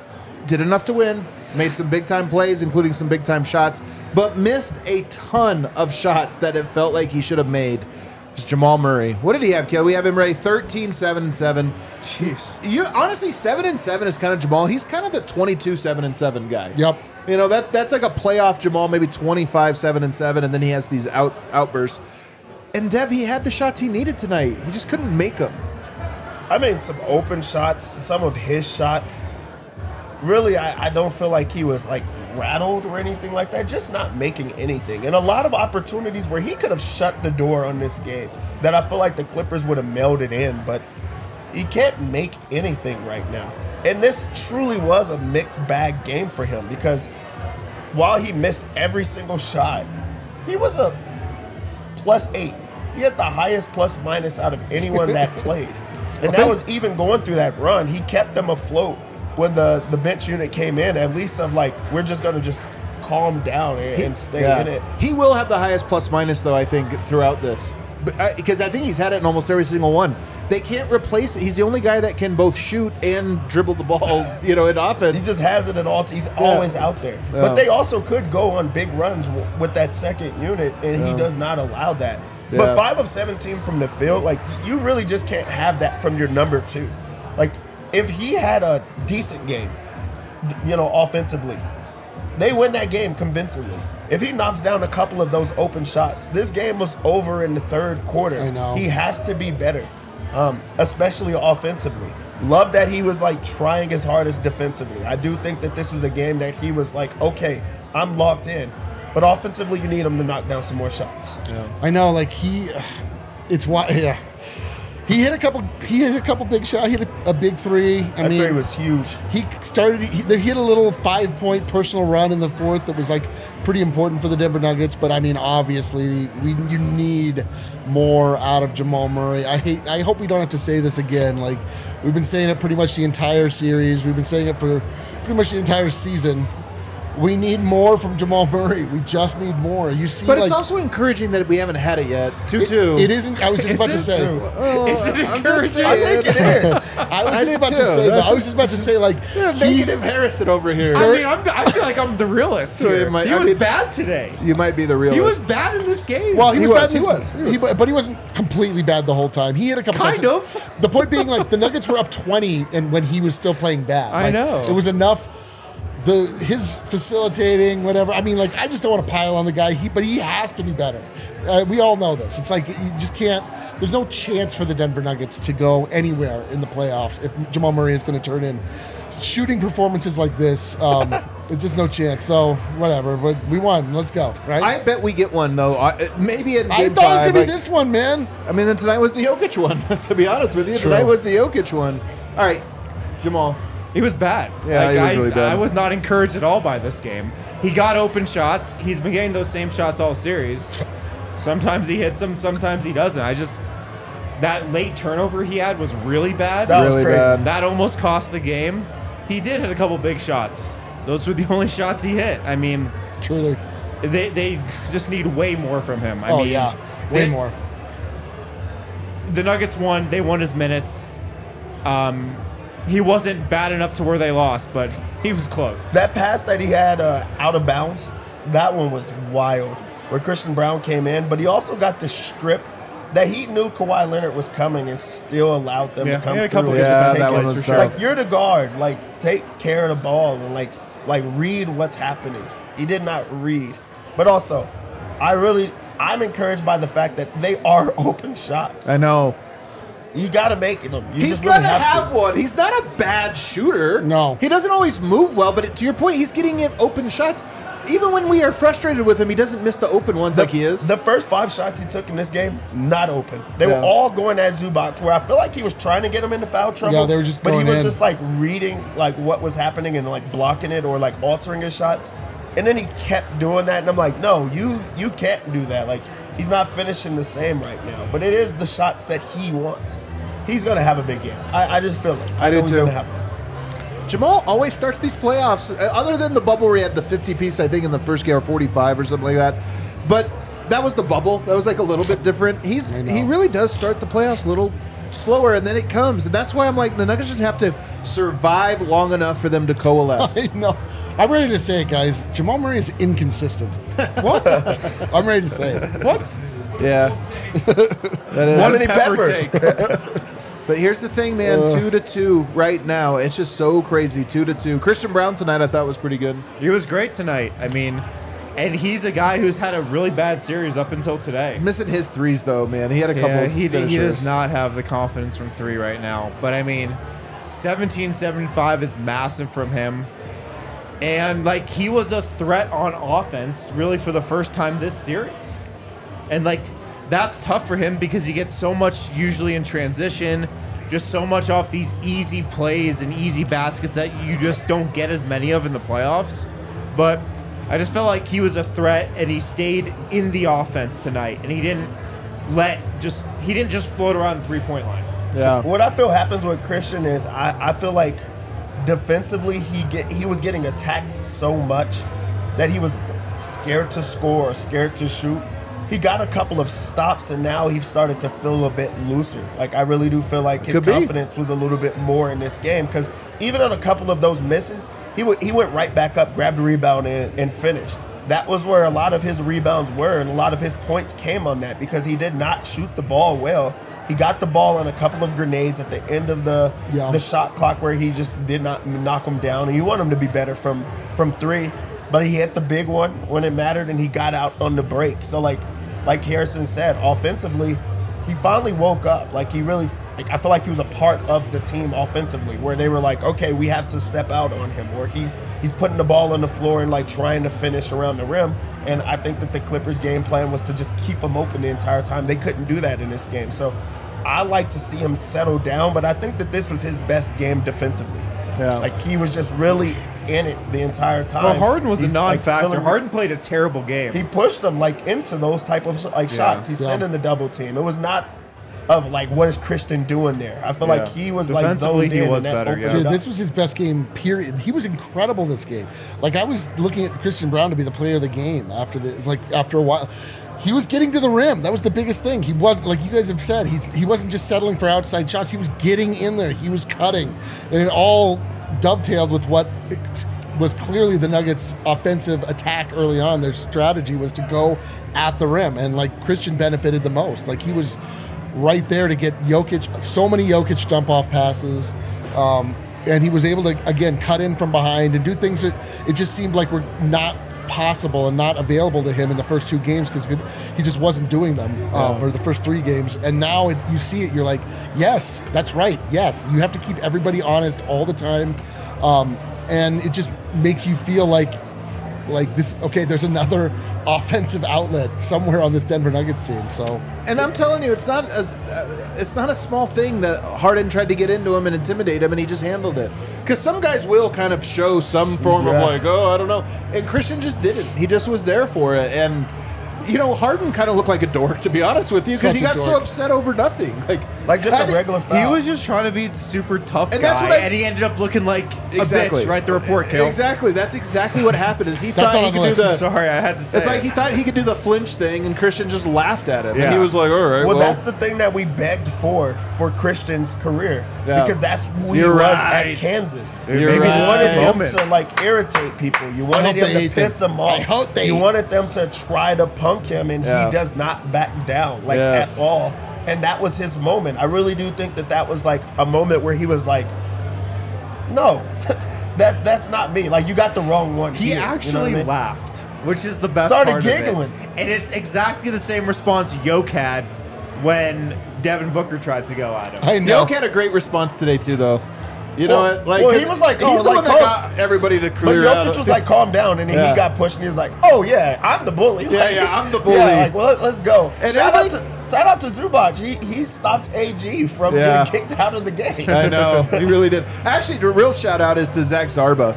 did enough to win, made some big time plays, including some big time shots, but missed a ton of shots that it felt like he should have made. It's Jamal Murray. What did he have, Kill? We have him ready thirteen, seven, and seven. Jeez. You honestly, seven and seven is kind of Jamal. He's kind of the twenty-two, seven, and seven guy. Yep. You know, that that's like a playoff Jamal, maybe twenty-five, seven, and seven, and then he has these out outbursts. And Dev, he had the shots he needed tonight. He just couldn't make them. I mean, some open shots, some of his shots. Really, I, I don't feel like he was like rattled or anything like that. Just not making anything. And a lot of opportunities where he could have shut the door on this game that I feel like the Clippers would have mailed it in, but he can't make anything right now. And this truly was a mixed bag game for him because while he missed every single shot, he was a plus eight. He had the highest plus minus out of anyone that played. And that was even going through that run. He kept them afloat when the, the bench unit came in, at least of like, we're just going to just calm down and, and stay Yeah. in it. He will have the highest plus minus, though, I think, throughout this. Because I, I think he's had it in almost every single one. They can't replace it. He's the only guy that can both shoot and dribble the ball, you know, in offense. He just has it at all. He's always out there. Yeah. But they also could go on big runs w- with that second unit, and Yeah. he does not allow that. Yeah. But five of seventeen from the field, like, you really just can't have that from your number two. Like, if he had a decent game, d- you know, offensively, they win that game convincingly. If he knocks down a couple of those open shots, this game was over in the third quarter. I know. He has to be better, um, especially offensively. Love that he was like trying his hardest defensively. I do think that this was a game that he was like, okay, I'm locked in. But offensively, you need him to knock down some more shots. I know, like he, it's why, yeah. He hit a couple. He hit a couple big shots. He hit a, a big three. I That mean, three was huge. he started. He, they hit a little five-point personal run in the fourth that was like pretty important for the Denver Nuggets. But I mean, obviously, we you need more out of Jamal Murray. I hate. I hope we don't have to say this again. Like we've been saying it pretty much the entire series. We've been saying it for pretty much the entire season. We need more from Jamal Murray. We just need more. You see, But like, it's also encouraging that we haven't had it yet. two it, two. it isn't. I was just Is about to it say. true? Oh, Is it I'm just encouraging? I think it is. I was I just did about to too. say. That. I was just about to say like Yeah, he- negative Harrison over here. I mean, I'm, I feel like I'm the realist So here. it might- he I was mean- bad today. You might be the realist. He was bad in this game. Well, he, He was, was, bad in he this- was, he he- but he wasn't completely bad the whole time. He had a couple Kind shots. of. The point being, like the Nuggets were up twenty, and when he was still playing bad, I Like, know. it was enough. The his facilitating, whatever. I mean, like I just don't want to pile on the guy. He, but he has to be better. Uh, we all know this. It's like you just can't. There's no chance for the Denver Nuggets to go anywhere in the playoffs if Jamal Murray is going to turn in shooting performances like this. Um, There's just no chance. So whatever. But we won. Let's go. Right. I bet we get one though. I, maybe in I game thought it was five, gonna be like- this one, man. I mean, then tonight was the Jokic one. To be honest with you, True. tonight was the Jokic one. All right, Jamal. He was bad. Yeah, he was I, really bad. I was not encouraged at all by this game. He got open shots. He's been getting those same shots all series. Sometimes he hits them, sometimes he doesn't. I just that late turnover he had was really bad. That Really was crazy. bad. That almost cost the game. He did hit a couple big shots. Those were the only shots he hit. I mean, Truly. they they just need way more from him. I Oh mean, yeah. Way they- more. The Nuggets won. They won his minutes. Um, he wasn't bad enough to where they lost, but he was close. That pass that he had uh, out of bounds, that one was wild. Where Christian Brown came in, but he also got the strip that he knew Kawhi Leonard was coming and still allowed them Yeah, to come he had a through. couple and good just Yeah, take that it. one was for tough. Like you're the guard, like take care of the ball and like s- like read what's happening. He did not read, but also, I really I'm encouraged by the fact that they are open shots. I know. You got to make them. You He's just really gonna have, have, to. one. He's not a bad shooter. No. he doesn't always move well. But to your point, he's getting in open shots. Even when we are frustrated with him, he doesn't miss the open ones like he is. The first five shots he took in this game, not open. They Yeah. were all going at Zubac, where I feel like he was trying to get him into foul trouble. Yeah, they were just But he going was in. just like reading like what was happening and like blocking it or like altering his shots. And then he kept doing that, and I'm like, no, you you can't do that. Like he's not finishing the same right now. But it is the shots that he wants. He's gonna have a big game. I, I just feel it. I do know he's too. gonna have one. Jamal always starts these playoffs, uh, other than the bubble where he had the fifty piece, I think, in the first game or forty-five or something like that. But that was the bubble. That was like a little bit different. He's I know. he really does start the playoffs a little slower, and then it comes, and that's why I'm like the Nuggets just have to survive long enough for them to coalesce. I know. I'm ready to say it, guys. Jamal Murray is inconsistent. What? I'm ready to say it. What? Yeah, that is. How many pepper peppers? But here's the thing, man. two to two right now. It's just so crazy. Two to two. Christian Brown tonight, I thought was pretty good. He was great tonight. I mean, and he's a guy who's had a really bad series up until today. Missing his threes though, man. He had a couple. Yeah, he, he finishers. does not have the confidence from three right now. But I mean, seventeen seventy-five is massive from him. And like he was a threat on offense really for the first time this series. And like that's tough for him because he gets so much usually in transition, just so much off these easy plays and easy baskets that you just don't get as many of in the playoffs. But I just felt like he was a threat and he stayed in the offense tonight and he didn't let just he didn't just float around the three-point line. Yeah. What I feel happens with Christian is I, I feel like defensively he get he was getting attacked so much that he was scared to score or scared to shoot. He got a couple of stops and now he's started to feel a bit looser. Like I really do feel like his Could be. confidence was a little bit more in this game because even on a couple of those misses, he w- he went right back up, grabbed a rebound and, and finished. That was where a lot of his rebounds were and a lot of his points came on that because he did not shoot the ball well. He got the ball on a couple of grenades at the end of the Yeah. the shot clock where he just did not knock him down. And you want him to be better from from three, but he hit the big one when it mattered and he got out on the break. So like like Harrison said, offensively, he finally woke up. Like he really, like I feel like he was a part of the team offensively, where they were like, okay, we have to step out on him, or he's he's putting the ball on the floor and like trying to finish around the rim. And I think that the Clippers' game plan was to just keep him open the entire time. They couldn't do that in this game. So I like to see him settle down, but I think that this was his best game defensively. Yeah. Like he was just really in it the entire time. Well, Harden was He's, a non-factor. Like, filling- Harden played a terrible game. He pushed them like into those type of like shots. He's Yeah. sending the double team. It was not of like what is Christian doing there. I feel Yeah. like he was like Defensively, zoned he in was and that better, opened yeah. it Dude, up. this was his best game, period. He was incredible this game. Like, I was looking at Christian Brown to be the player of the game after the, like, after a while. He was getting to the rim. That was the biggest thing. He was, like you guys have said, he's, he wasn't just settling for outside shots. He was getting in there. He was cutting. And it all dovetailed with what was clearly the Nuggets' offensive attack early on. Their strategy was to go at the rim. And, like, Christian benefited the most. Like, he was right there to get Jokic, so many Jokic dump off passes. Um, and he was able to, again, cut in from behind and do things that it just seemed like were not possible and not available to him in the first two games because he just wasn't doing them, um, or the first three games. And now it, you see it, you're like, yes, that's right. Yes, you have to keep everybody honest all the time. Um, and it just makes you feel like, like this, okay, there's another offensive outlet somewhere on this Denver Nuggets team. So, And I'm telling you, it's not a, uh, it's not a small thing that Harden tried to get into him and intimidate him, and he just handled it. Because some guys will kind of show some form Yeah. of like, oh, I don't know. And Christian just didn't. He just was there for it. And, you know, Harden kind of looked like a dork, to be honest with you, because Such he a got so dork. upset over nothing. Like, Like just I a did- regular foul. He was just trying to be super tough And guy, that's what I- and he ended up looking like Exactly. a bitch. Write the report, Kale. Exactly. That's exactly what happened. Is he That's thought on he the could do list. the. Sorry, I had to say It's like it. he thought he could do the flinch thing, and Christian just laughed at him. And Yeah. he was like, all right, Well, well, that's the thing that we begged for for Christian's career Yeah. because that's who he You're was right. at Kansas. You're you right. wanted him Moment. to like irritate people. You wanted hope him they to hate piss them. him off. I hope they- You wanted them to try to punk him, and Yeah. he does not back down like Yes. at all. And that was his moment. I really do think that that was like a moment where he was like, "No, that that's not me. Like you got the wrong one." He here." You know what actually I mean? laughed, which is the best Started part giggling. of it. And it's exactly the same response Yoke had when Devin Booker tried to go at him. I know. Yoke had a great response today too, though. You know, Well- what? like well, he 'cause was like, he's oh, the like, one that calm- got everybody to But clear out. Jokic was like, calm down, and then Yeah. he got pushed, and he was like, oh, yeah, I'm the bully. Yeah, Like, yeah, I'm the bully. Yeah, like, well, let- let's go. And shout, out everybody- to, shout out to Zubac. He, he stopped A G from Yeah. getting kicked out of the game. I know, he really did. Actually, the real shout out is to Zach Zarba.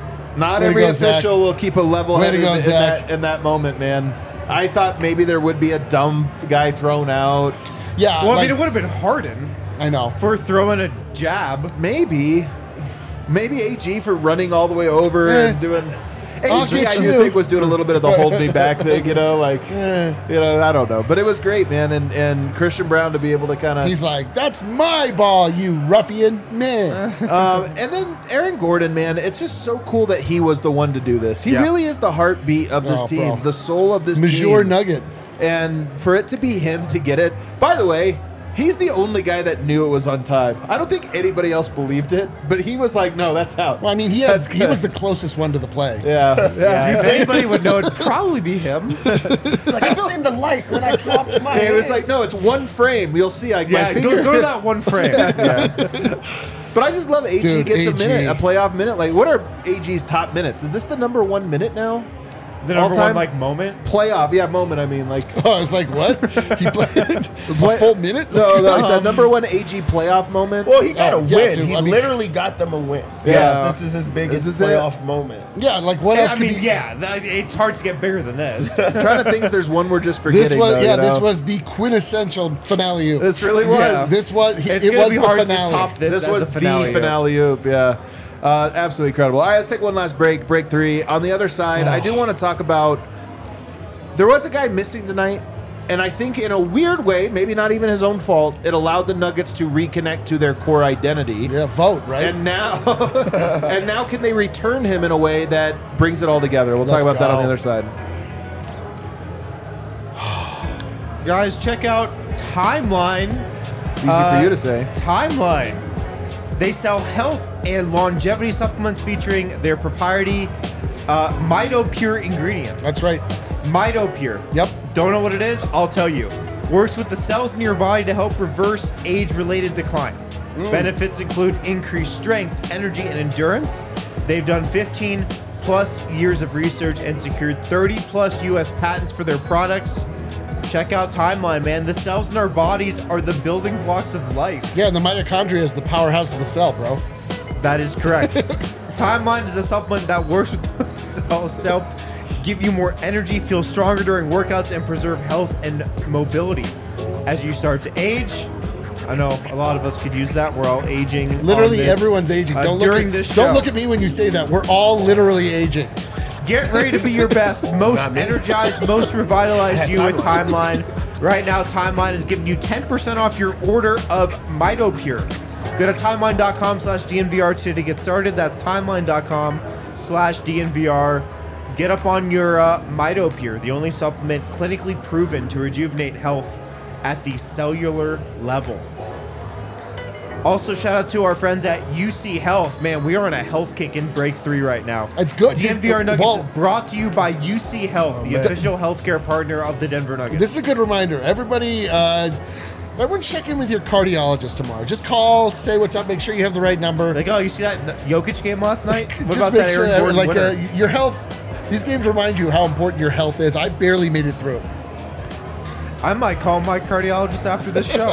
Not Way to every go, Zach. official will keep a level Way head to in, go, in Zach. that in that moment, man. I thought maybe there would be a dumb guy thrown out. Yeah, Well, I like, mean, it would have been Harden I know. for throwing a jab. Maybe, maybe A G for running all the way over Eh. and doing. I'll A G, get I do you. think was doing a little bit of the hold me back thing, you know, like Eh. you know, I don't know, but it was great, man, and and Christian Brown to be able to kind of. He's like, that's my ball, you ruffian. Man. Um, and then Aaron Gordon, man, it's just so cool that he was the one to do this. He Yeah. really is the heartbeat of this Oh, team, bro. the soul of this Major team. Nugget. And for it to be him to get it, by the way, he's the only guy that knew it was on time. I don't think anybody else believed it, but he was like, no, that's out. Well, I mean, he had, That's he good. was the closest one to the play. Yeah, yeah. If anybody would know, it'd probably be him. It's like, I seen the light when I dropped my It was hands. like, no, it's one frame. You'll see, like my Yeah, finger. go, go to that one frame. Yeah. But I just love A G Dude, gets a A G. minute, a playoff minute. Like, what are A G's top minutes? Is this the number one minute now? The number All-time? one like moment. Playoff, yeah, moment. I mean, like. Oh, I was like, what? He played a What- full minute? No, like the Um, number one A G playoff moment. Well, he got Oh, a yeah, win. dude, he I mean- literally got them a win. Yeah. Yes, this is his biggest This is it. playoff moment. Yeah, like what else I could mean, be? yeah, that, it's hard to get bigger than this. I'm trying to think if there's one we're just forgetting. This was though, yeah. you This know? was the quintessential finale. This really was. Yeah. This was he, It's it gonna was be the hard finale. to top this. This as was a finale. the finale oop, yeah. Uh, absolutely incredible. All right, let's take one last break. Break three. On the other side, I do want to talk about. There was a guy missing tonight, and I think in a weird way, maybe not even his own fault, it allowed the Nuggets to reconnect to their core identity. Yeah, vote right. And now, and now, can they return him in a way that brings it all together? We'll Let's talk about that on go. the other side. Guys, check out Timeline. Easy Uh, for you to say. Timeline. They sell health and longevity supplements featuring their proprietary uh, MitoPure ingredient. That's right. MitoPure. Yep. Don't know what it is? I'll tell you. Works with the cells in your body to help reverse age-related decline. Benefits include increased strength, energy, and endurance. They've done fifteen plus years of research and secured thirty plus U S patents for their products. check out Timeline, man. The cells in our bodies are the building blocks of life. Yeah, and the mitochondria is the powerhouse of the cell, bro. That is correct. Timeline is a supplement that works with those cells to help give you more energy, feel stronger during workouts, and preserve health and mobility. As you start to age, I know a lot of us could use that. We're all aging. Literally on this, everyone's aging. uh, Don't look during at, this show. Don't look at me when you say that. We're all literally aging. Get ready to be your best, most Not me. energized, most revitalized I had you at Timeline. Timeline. Right now, Timeline is giving you ten percent off your order of MitoPure. Go to timeline.com slash DNVR today to get started. That's timeline.com slash DNVR. Get up on your uh, MitoPure, the only supplement clinically proven to rejuvenate health at the cellular level. Also, shout out to our friends at U C Health. Man, we are on a health kick in break three right now. It's good. D N V R Nuggets Well- is brought to you by U C Health, the man. official healthcare partner of the Denver Nuggets. This is a good reminder. Everybody, uh, everyone check in with your cardiologist tomorrow. Just call, say what's up, make sure you have the right number. like, oh, you see that Jokic game last night? What Just about make that sure Aaron that, Gordon like winner? uh, your health. These games remind you how important your health is. I barely made it through. I might call my cardiologist after this show.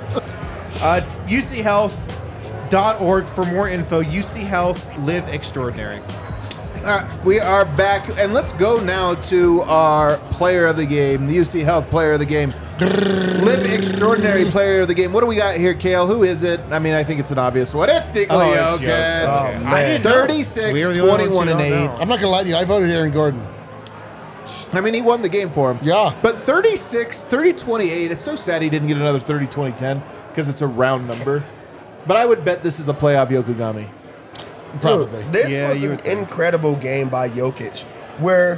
uh, U C Health dot org for more info. U C Health, live extraordinary. All right, we are back, and let's go now to our player of the game, the U C Health player of the game. Live extraordinary player of the game. What do we got here, Kale? Who is it? I mean, I think it's an obvious one. It's Nikola Oh, it's Jokic. Jokic. Oh, I man. didn't know. thirty-six, We are the only ones who twenty-one, and don't eight. know. I'm not gonna lie to you. I voted Aaron Gordon. I mean, he won the game for him. Yeah. But thirty-six, thirty twenty-eight, it's so sad he didn't get another thirty twenty ten because it's a round number. But I would bet this is a playoff Yokogami. Probably. This Yeah, was you an would think. incredible game by Jokic, where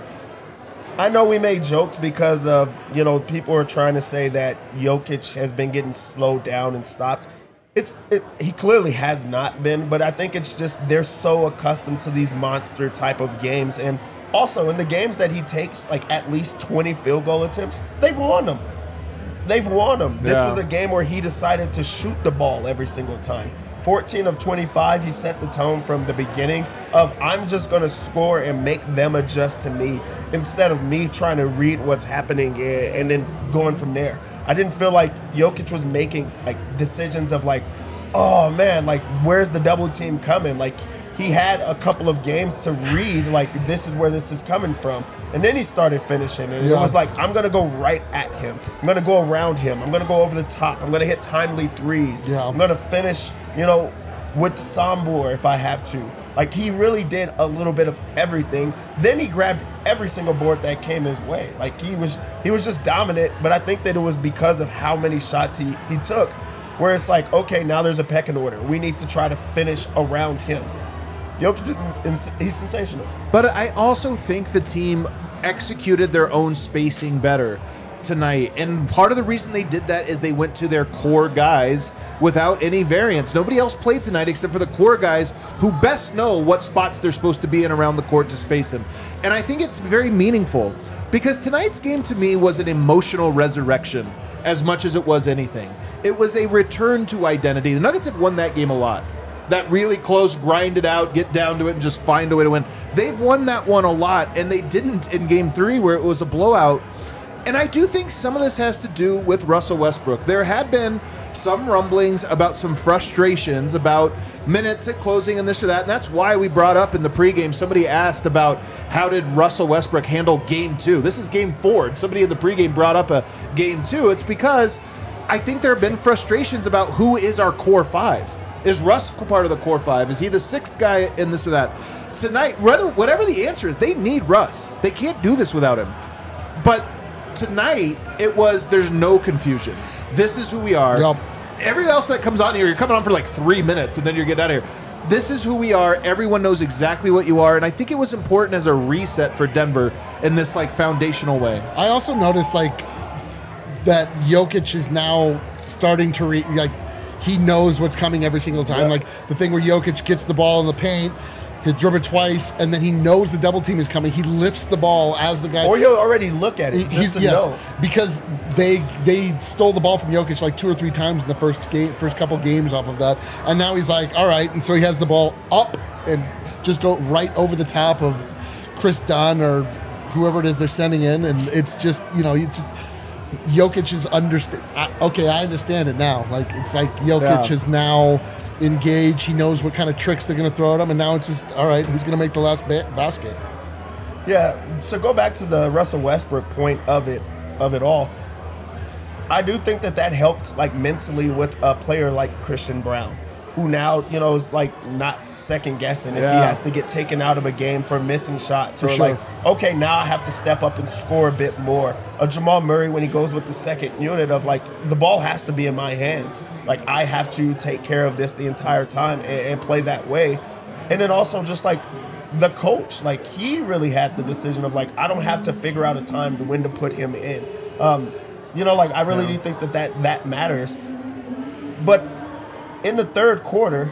I know we made jokes because of, you know, people are trying to say that Jokic has been getting slowed down and stopped. It's it, he clearly has not been, but I think it's just they're so accustomed to these monster type of games, and also in the games that he takes like at least twenty field goal attempts, they've won them. They've won them. This Yeah. was a game where he decided to shoot the ball every single time. fourteen of twenty-five, he set the tone from the beginning of I'm just going to score and make them adjust to me instead of me trying to read what's happening and, and then going from there. I didn't feel like Jokic was making like decisions of like, oh man, like where's the double team coming? Like he had a couple of games to read like this is where this is coming from. And then he started finishing, and Yeah. it was like, I'm going to go right at him. I'm going to go around him. I'm going to go over the top. I'm going to hit timely threes. Yeah. I'm going to finish, you know, with Sambor if I have to. Like, he really did a little bit of everything. Then he grabbed every single board that came his way. Like, he was he was just dominant, but I think that it was because of how many shots he, he took, where it's like, okay, now there's a pecking order. We need to try to finish around him. Jokic is ins- he's sensational. But I also think the team executed their own spacing better tonight. And part of the reason they did that is they went to their core guys without any variance. Nobody else played tonight except for the core guys who best know what spots they're supposed to be in around the court to space him. And I think it's very meaningful because tonight's game to me was an emotional resurrection as much as it was anything. It was a return to identity. The Nuggets have won that game a lot. That really close, grind it out, get down to it, and just find a way to win. They've won that one a lot, and they didn't in game three where it was a blowout. And I do think some of this has to do with Russell Westbrook. There had been some rumblings about some frustrations about minutes at closing and this or that, and that's why we brought up in the pregame, somebody asked about how did Russell Westbrook handle game two. This is game four, and somebody in the pregame brought up a game two. It's because I think there have been frustrations about who is our core five. Is Russ part of the core five? Is he the sixth guy in this or that? Tonight, whether, whatever the answer is, they need Russ. They can't do this without him. But tonight, it was, there's no confusion. This is who we are. Yep. Everything else that comes on here, you're coming on for like three minutes and then you're getting out of here. This is who we are. Everyone knows exactly what you are. And I think it was important as a reset for Denver in this like foundational way. I also noticed like that Jokic is now starting to re- like he knows what's coming every single time. Yeah. Like the thing where Jokic gets the ball in the paint, he'll dribble twice, and then he knows the double team is coming. He lifts the ball as the guy. Or he'll already look at it He- just he's to yes, know. because they they stole the ball from Jokic like two or three times in the first game, first couple games off of that, and now he's like, all right, and so he has the ball up and just go right over the top of Chris Dunn or whoever it is they're sending in, and it's just you know, it's just Jokic is understand. Okay, I understand it now. Like it's like Jokic Yeah. is now engaged. He knows what kind of tricks they're going to throw at him, and now it's just all right. Who's going to make the last ba- basket? Yeah. So go back to the Russell Westbrook point of it, of it all. I do think that that helped, like mentally, with a player like Christian Brown, who now you know is like not second guessing if Yeah. he has to get taken out of a game for missing shots or sure. like, okay, now I have to step up and score a bit more. A Jamal Murray when he goes with the second unit of like the ball has to be in my hands, like I have to take care of this the entire time and, and play that way, and then also just like the coach, like he really had the decision of like I don't have to figure out a time to when to put him in. Um, you know, like I really do think that, that that matters. But in the third quarter,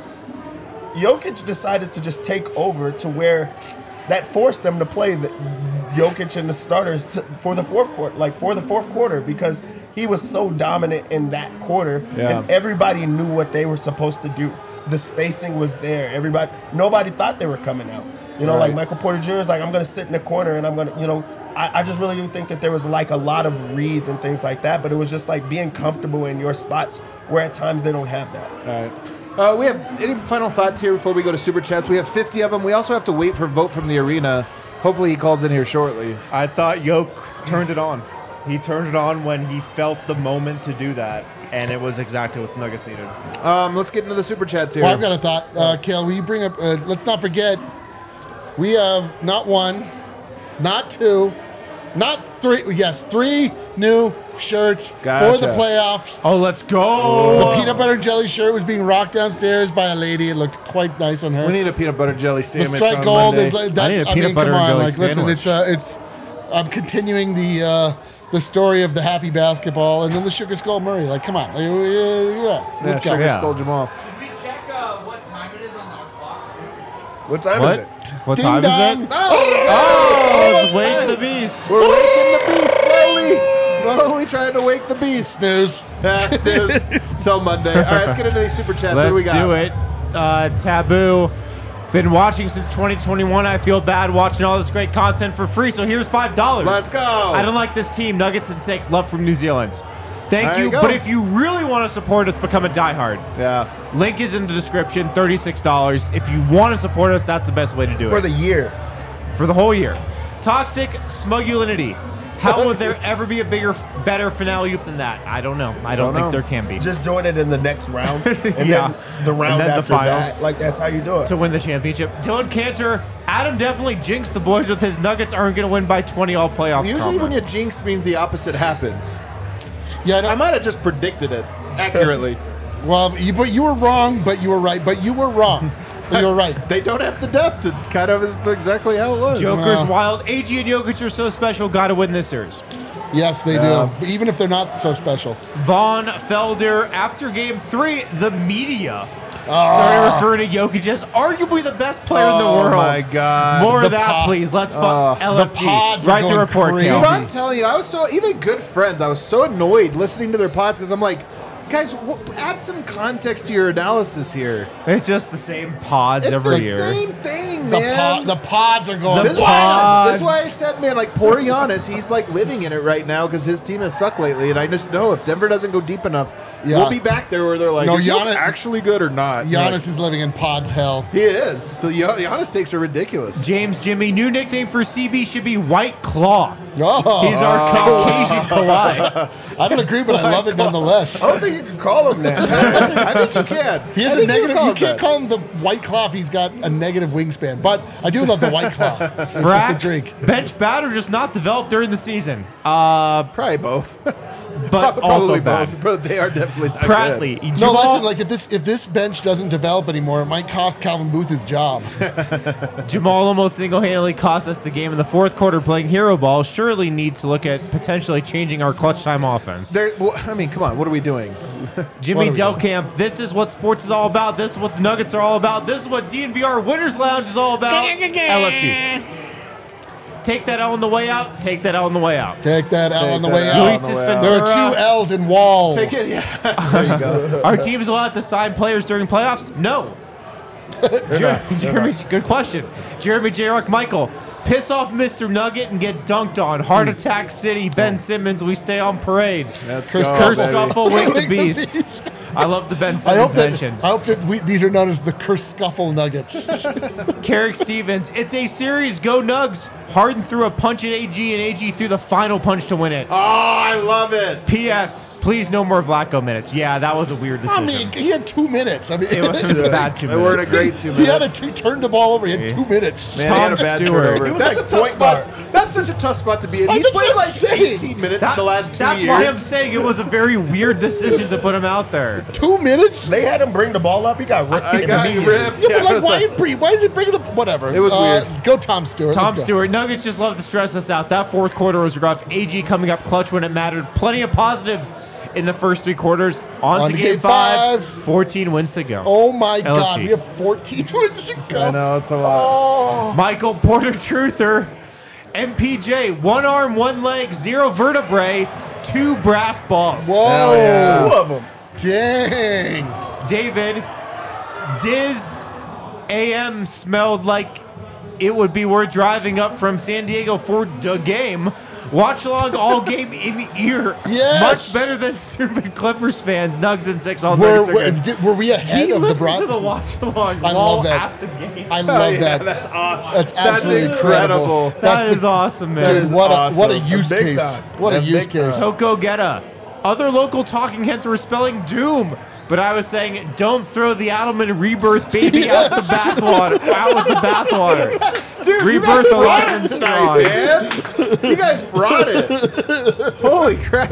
Jokic decided to just take over to where that forced them to play the Jokic and the starters for the fourth quarter, like for the fourth quarter, because he was so dominant in that quarter, Yeah. and everybody knew what they were supposed to do. The spacing was there. Everybody, nobody thought they were coming out. You know, like Right. Michael Porter Junior is like, I'm going to sit in the corner and I'm going to, you know, I, I just really do think that there was like a lot of reads and things like that, but it was just like being comfortable in your spots where at times they don't have that. All right. Uh, we have any final thoughts here before we go to Super Chats? We have fifty of them. We also have to wait for vote from the arena. Hopefully he calls in here shortly. I thought Yoke turned it on. He turned it on when he felt the moment to do that, and it was exactly what Nuggets needed. Um, let's get into the Super Chats here. Well, I've got a thought, uh, Kale. Will you bring up? Uh, let's not forget, we have not one, not two, not three. Yes, three new shirts for Gotcha. the playoffs. Oh, let's go. The peanut butter and jelly shirt was being rocked downstairs by a lady. It looked quite nice on her. We need a peanut butter jelly The sandwich strike on gold Monday. is like, I that's. need a I, peanut mean, butter come and on, jelly like listen, sandwich. it's uh, it's. I'm continuing the uh, the story of the happy basketball, and then the Sugar Skull Murray. Like, come on, like, uh, yeah, Yeah, let's go. Sugar Yeah. Skull Jamal. Did we check uh, what time it is on the clock? What time What? is it? What Ding time dong. is it? Oh, Oh, wake the beast. we're waking the beast slowly. Slowly trying to wake the beast. Snooze. Yeah, snooze. Till Monday. All right, let's get into these Super Chats. what do we Let's got? do it. Uh, Taboo. Been watching since twenty twenty-one. I feel bad watching all this great content for free, so here's five dollars. Let's go. I don't like this team. Nuggets and six. Love from New Zealand. Thank There you. you go. But if you really want to support us, become a diehard. Yeah. Link is in the description. thirty-six dollars. If you want to support us, that's the best way to do For it. the year. For the whole year. Toxic Smugulinity. How will there ever be a bigger, better finale loop than that? I don't know. I don't, Don't think know. there can be. Just doing it in the next round. And Yeah. then the round And then the after finals. that. Like, that's how you do it. To win the championship. Dylan Cantor, Adam definitely jinxed the boys with his Nuggets aren't going to win by twenty all playoffs. Usually when comment. you jinx means the opposite happens. Yeah, I I don't, might have just predicted it accurately. well, you, but you were wrong, but you were right. But you were wrong. But you were right. They don't have the depth. It kind of is exactly how it was. Joker's Wow. wild. A G and Jokic are so special. Got to win this series. Yes, they Yeah. do. Even if they're not so special. Vaughn Felder, after game three, the media Ah. started referring to Jokic as arguably the best player in the Oh, world. my God. More The of that, pod- please. Let's Uh, fuck L F G. the pods are Write the going report, crazy. Dude, Kelsey. I'm telling you, I was so, even good friends, I was so annoyed listening to their pods because I'm like, guys, w- add some context to your analysis here. It's just the same pods It's every the year. same thing, The, man. pod, the pods are going. The This is, why I said, this is pods. why I said, man, like poor Giannis, he's like living in it right now because his team has sucked lately, and I just know if Denver doesn't go deep enough, Yeah. we'll be back there where they're like, No, is Jokic Giannis- actually good or not? And Giannis you're like, is living in pods hell. he is. The Gian- Giannis takes are ridiculous. James Jimmy, new nickname for C B should be White Claw. Oh, He's our Caucasian Kawhi. I don't agree, but I love it nonetheless. I don't think you can call him that. I think you can. He I has a think negative. call You it can't that. call him the White Claw if he's got a negative wingspan. But I do love the White Claw. It's just a Frack, drink. bench bad or just not developed during the season. Uh, Probably both. but Probably also both. bad. Bro, they are definitely not Pratley, good. No, Jamal, listen. Like if this if this bench doesn't develop anymore, it might cost Calvin Booth his job. Jamal almost single-handedly cost us the game in the fourth quarter playing hero ball. Surely need to look at potentially changing our clutch time offense. There, well, I mean, come on. What are we doing? Jimmy What are we Delcamp, this is what sports is all about. This is what the Nuggets are all about. This is what D N V R Winners Lounge is all about. L F G. Take that L on the way out. Take that L on the way out. Take that L Take on the that way L out. on Luis the way out. Ventura. There are two L's in wall. Take it. Yeah. There you go. Our team is allowed to sign players during playoffs? No. Jer- Jeremy, good question. Jeremy J. Rock Michael. Piss off Mister Nugget and get dunked on. Heart Attack City, Ben Simmons, we stay on parade. Let's Curse- go, Curse baby. Scuffle, Wake the Wake the Beast. Beast. I love the Ben I hope Simmons that, mentioned. I hope that we, these are known as the Curse Scuffle Nuggets. Carrick Stevens, it's a series. Go Nugs. Harden threw a punch at A G, and A G threw the final punch to win it. Oh, I love it. P S. Please no more Vlaco minutes. Yeah, that was a weird I decision. mean, he had two minutes. I mean, it was, it was a bad two They weren't a minutes. great two he had a minutes. two, turned the ball over. He had two minutes. Man, he had a Tom bad Stewart. turnover. He was That's like a tough point guard. spot. That's such a tough spot to be in. I- He's that's played what like I'm saying. eighteen minutes That- in the last two that's years. why I'm saying it was a very weird decision to put him out there. Two minutes? They had him bring the ball up. He got ripped. I got immediately. ripped. Yeah, Yeah, but it like, was why, like- bring- why is he bringing the whatever? It was Uh, weird. Go Tom Stewart. Tom Let's go. Stewart. Nuggets just love to stress us out. That fourth quarter was rough. A G coming up clutch when it mattered. Plenty of positives in the first three quarters. On, to game, five. fourteen wins to go. Oh my L F G. God, we have fourteen wins to go. I know, it's a lot. Oh, Michael Porter Truther. M P J. One arm, one leg, zero vertebrae, two brass balls. whoa. Hell yeah. Two of them. Dang. David, Diz A M smelled like it would be worth driving up from San Diego for the game. Watch along all game in ear. Yes. Much better than stupid Clippers fans. Nugs and six all Were, Nuggets are were, good. did- were we ahead He of the listened broad? to the watch along I while love that. at the game. I Oh, love yeah, that. That's awesome. That's That's absolutely incredible. incredible. that That's is the- awesome, man. Dude, what a what a awesome. use Big case. time. What That's a use big time. case. Toko Getta. Other local talking heads were spelling doom, but I was saying don't throw the Adelman rebirth baby out the bathwater. Out with the bathwater. Dude, Rebirth you guys brought alive it and tonight, strong. man. You guys brought it. Holy crap.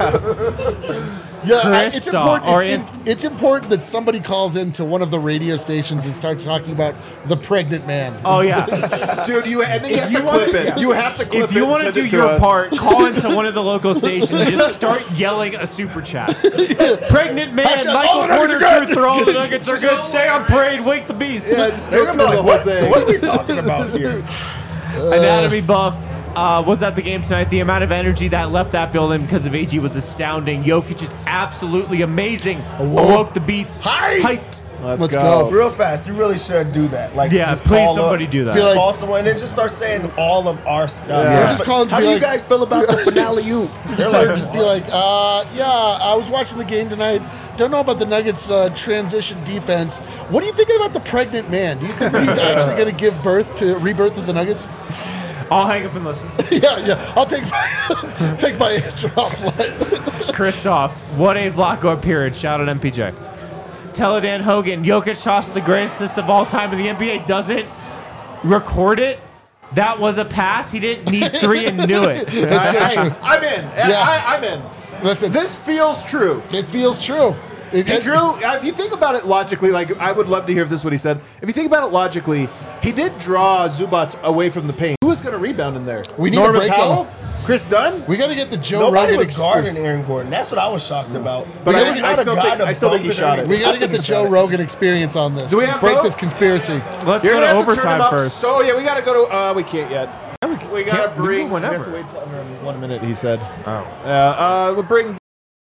Yeah, I- it's Christoph, important. or It's, in- in- it's important that somebody calls into one of the radio stations and starts talking about the pregnant man. Oh yeah. Dude, you and then you have you to clip wanna- it. yeah. You have to clip If it. you and want to send do it your us. part, call into one of the local stations and just start yelling a super chat. Pregnant man, Hashtag, all Michael the Nuggets Porter are good. Truther, all the Nuggets are good. Stay on parade, wake the beast. Yeah, just They're go gonna through be the like, whole what, thing. what are we talking about here? Anatomy buff uh, was at the game tonight. The amount of energy that left that building because of A G was astounding. Jokic is absolutely amazing. Awoke the beats. Hype. Hyped. Let's, Let's go. go. Real fast, you really should do that. Like, Yeah, just please call somebody up, do that. Just Be like- call someone and then just start saying all of our stuff. Yeah. Just call and How be do you like- guys feel about the finale? You? They're Or like, just be like, uh, yeah, I was watching the game tonight. Don't know about the Nuggets' uh, transition defense. What are you thinking about the pregnant man? Do you think that he's actually going to give birth to rebirth of the Nuggets? I'll hang up and listen. yeah, yeah. I'll take my take my answer offline. Christoph, what a Vlaco appearance. Shout out M P J. Teledan Hogan, Jokic tosses the greatest assist of all time in the N B A. Doesn't record it. That was a pass. He didn't need three and knew it. That's so I, true. I, I'm in. Yeah. I, I'm in. Listen, This feels true. it feels true. It, He it- drew. If you think about it logically, like I would love to hear if this is what he said. If you think about it logically, he did draw Zubats away from the paint. Who was going to rebound in there? We need a Norman breakdown. Powell, Chris Dunn. We got to get the Joe nobody Rogan was experience. guarding Aaron Gordon. That's what I was shocked about. But There I- was I not a still guy think- to I still think bump he shot it. or We got to anything. get the Joe Rogan experience on this. Do we have break both? this conspiracy? Let's You're go gonna to have to turn overtime him up. first. So yeah, we got to go to. Uh, we can't yet. We got to can't- we bring. can We have whenever. to wait till under one minute. He said. Oh. Uh, uh, we'll bring.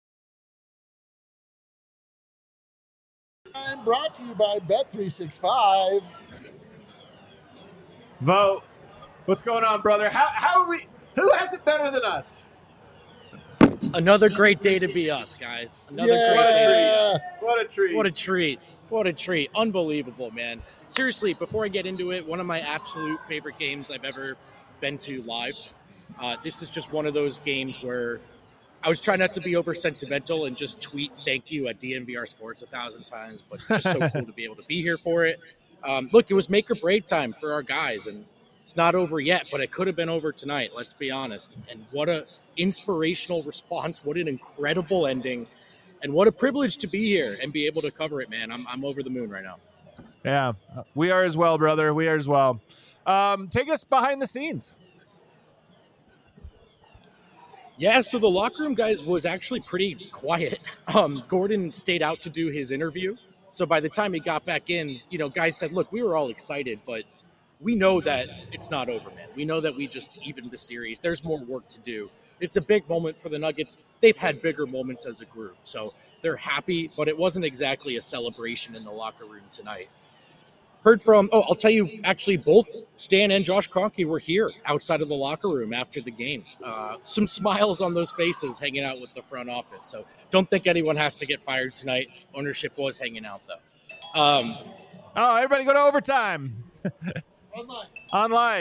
I'm brought to you by Bet three sixty-five. Vote. What's going on, brother? How how are we? Who has it better than us? Another great day to be us, guys. Another Yeah. great day to be us. What a treat. What a treat. What a treat. Unbelievable, man. Seriously, before I get into it, one of my absolute favorite games I've ever been to live. Uh, this is just one of those games where I was trying not to be over sentimental and just tweet thank you at D N V R Sports a thousand times, but just so cool to be able to be here for it. Um, look, it was make or break time for our guys, and it's not over yet, but it could have been over tonight, let's be honest. And what a inspirational response. What an incredible ending. And what a privilege to be here and be able to cover it, man. I'm, I'm over the moon right now. Yeah, we are as well, brother. We are as well. Um, take us behind the scenes. Yeah, so the locker room, guys, was actually pretty quiet. Um, Gordon stayed out to do his interview. So by the time he got back in, you know, guys said, look, we were all excited, but we know that it's not over, man. We know that we just evened the series. There's more work to do. It's a big moment for the Nuggets. They've had bigger moments as a group. So they're happy, but it wasn't exactly a celebration in the locker room tonight. Heard from, oh, I'll tell you, actually, both Stan and Josh Kroenke were here outside of the locker room after the game. Uh, some smiles on those faces hanging out with the front office. So don't think anyone has to get fired tonight. Ownership was hanging out, though. Um, oh, everybody go to overtime. Online. Online.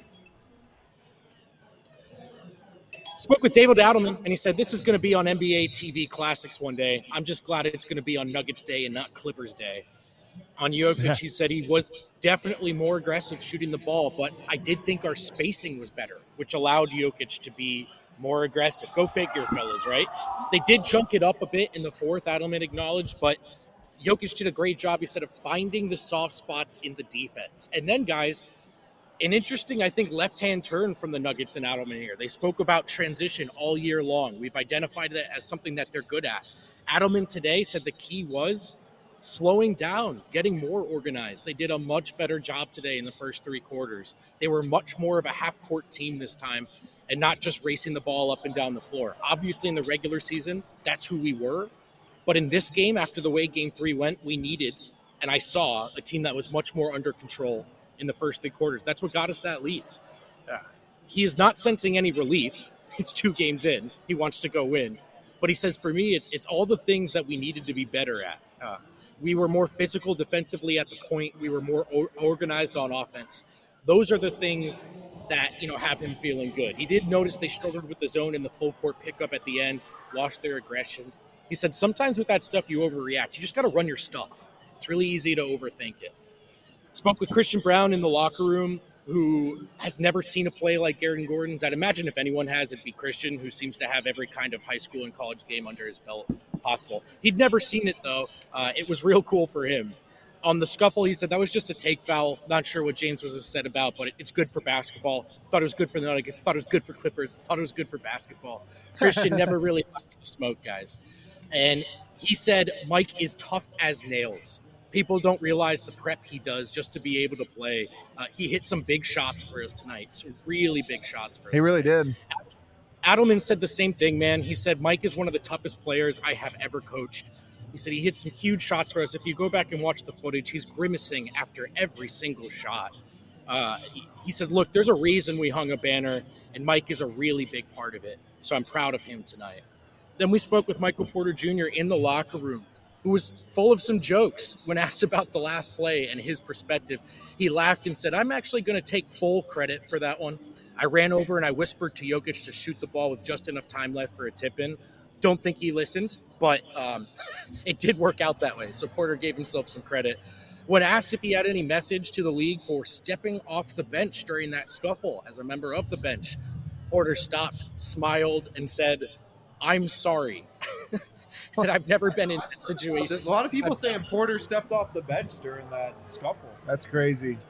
Spoke with David Adelman, and he said, this is going to be on N B A T V Classics one day. I'm just glad it's going to be on Nuggets Day and not Clippers Day. On Jokic, yeah. He said he was definitely more aggressive shooting the ball, but I did think our spacing was better, which allowed Jokic to be more aggressive. Go figure, fellas, right? They did junk it up a bit in the fourth, Adelman acknowledged, but Jokic did a great job, he said, of finding the soft spots in the defense. And then, guys, an interesting, I think, left-hand turn from the Nuggets and Adelman here. They spoke about transition all year long. We've identified that as something that they're good at. Adelman today said the key was slowing down, getting more organized. They did a much better job today in the first three quarters. They were much more of a half-court team this time and not just racing the ball up and down the floor. Obviously, in the regular season, that's who we were. But in this game, after the way game three went, we needed, and I saw, a team that was much more under control in the first three quarters. That's what got us that lead. Uh, he is not sensing any relief. It's two games in. He wants to go win. But he says, for me, it's it's all the things that we needed to be better at. Uh, we were more physical defensively at the point. We were more or- organized on offense. Those are the things that, you know, have him feeling good. He did notice they struggled with the zone and the full court pickup at the end, lost their aggression. He said, sometimes with that stuff, you overreact. You just got to run your stuff. It's really easy to overthink it. Spoke with Christian Braun in the locker room, who has never seen a play like Aaron Gordon's. I'd imagine if anyone has, it'd be Christian, who seems to have every kind of high school and college game under his belt possible. He'd never seen it, though. Uh, it was real cool for him. On the scuffle, he said that was just a take foul. Not sure what James was said about, but it's good for basketball. Thought it was good for the Nuggets. Thought it was good for Clippers. Thought it was good for basketball. Christian never really likes the smoke, guys. And he said Mike is tough as nails. People don't realize the prep he does just to be able to play. Uh, he hit some big shots for us tonight, some really big shots for us. He really did. Adelman said the same thing, man. He said Mike is one of the toughest players I have ever coached. He said he hit some huge shots for us. If you go back and watch the footage, he's grimacing after every single shot. Uh, he, he said, look, there's a reason we hung a banner, and Mike is a really big part of it. So I'm proud of him tonight. Then we spoke with Michael Porter Junior in the locker room, who was full of some jokes when asked about the last play and his perspective. He laughed and said, I'm actually going to take full credit for that one. I ran over and I whispered to Jokic to shoot the ball with just enough time left for a tip-in. Don't think he listened, but um, it did work out that way. So Porter gave himself some credit. When asked if he had any message to the league for stepping off the bench during that scuffle as a member of the bench, Porter stopped, smiled, and said, I'm sorry. He said, I've never been in that situation. There's a lot of people saying Porter stepped off the bench during that scuffle. That's crazy.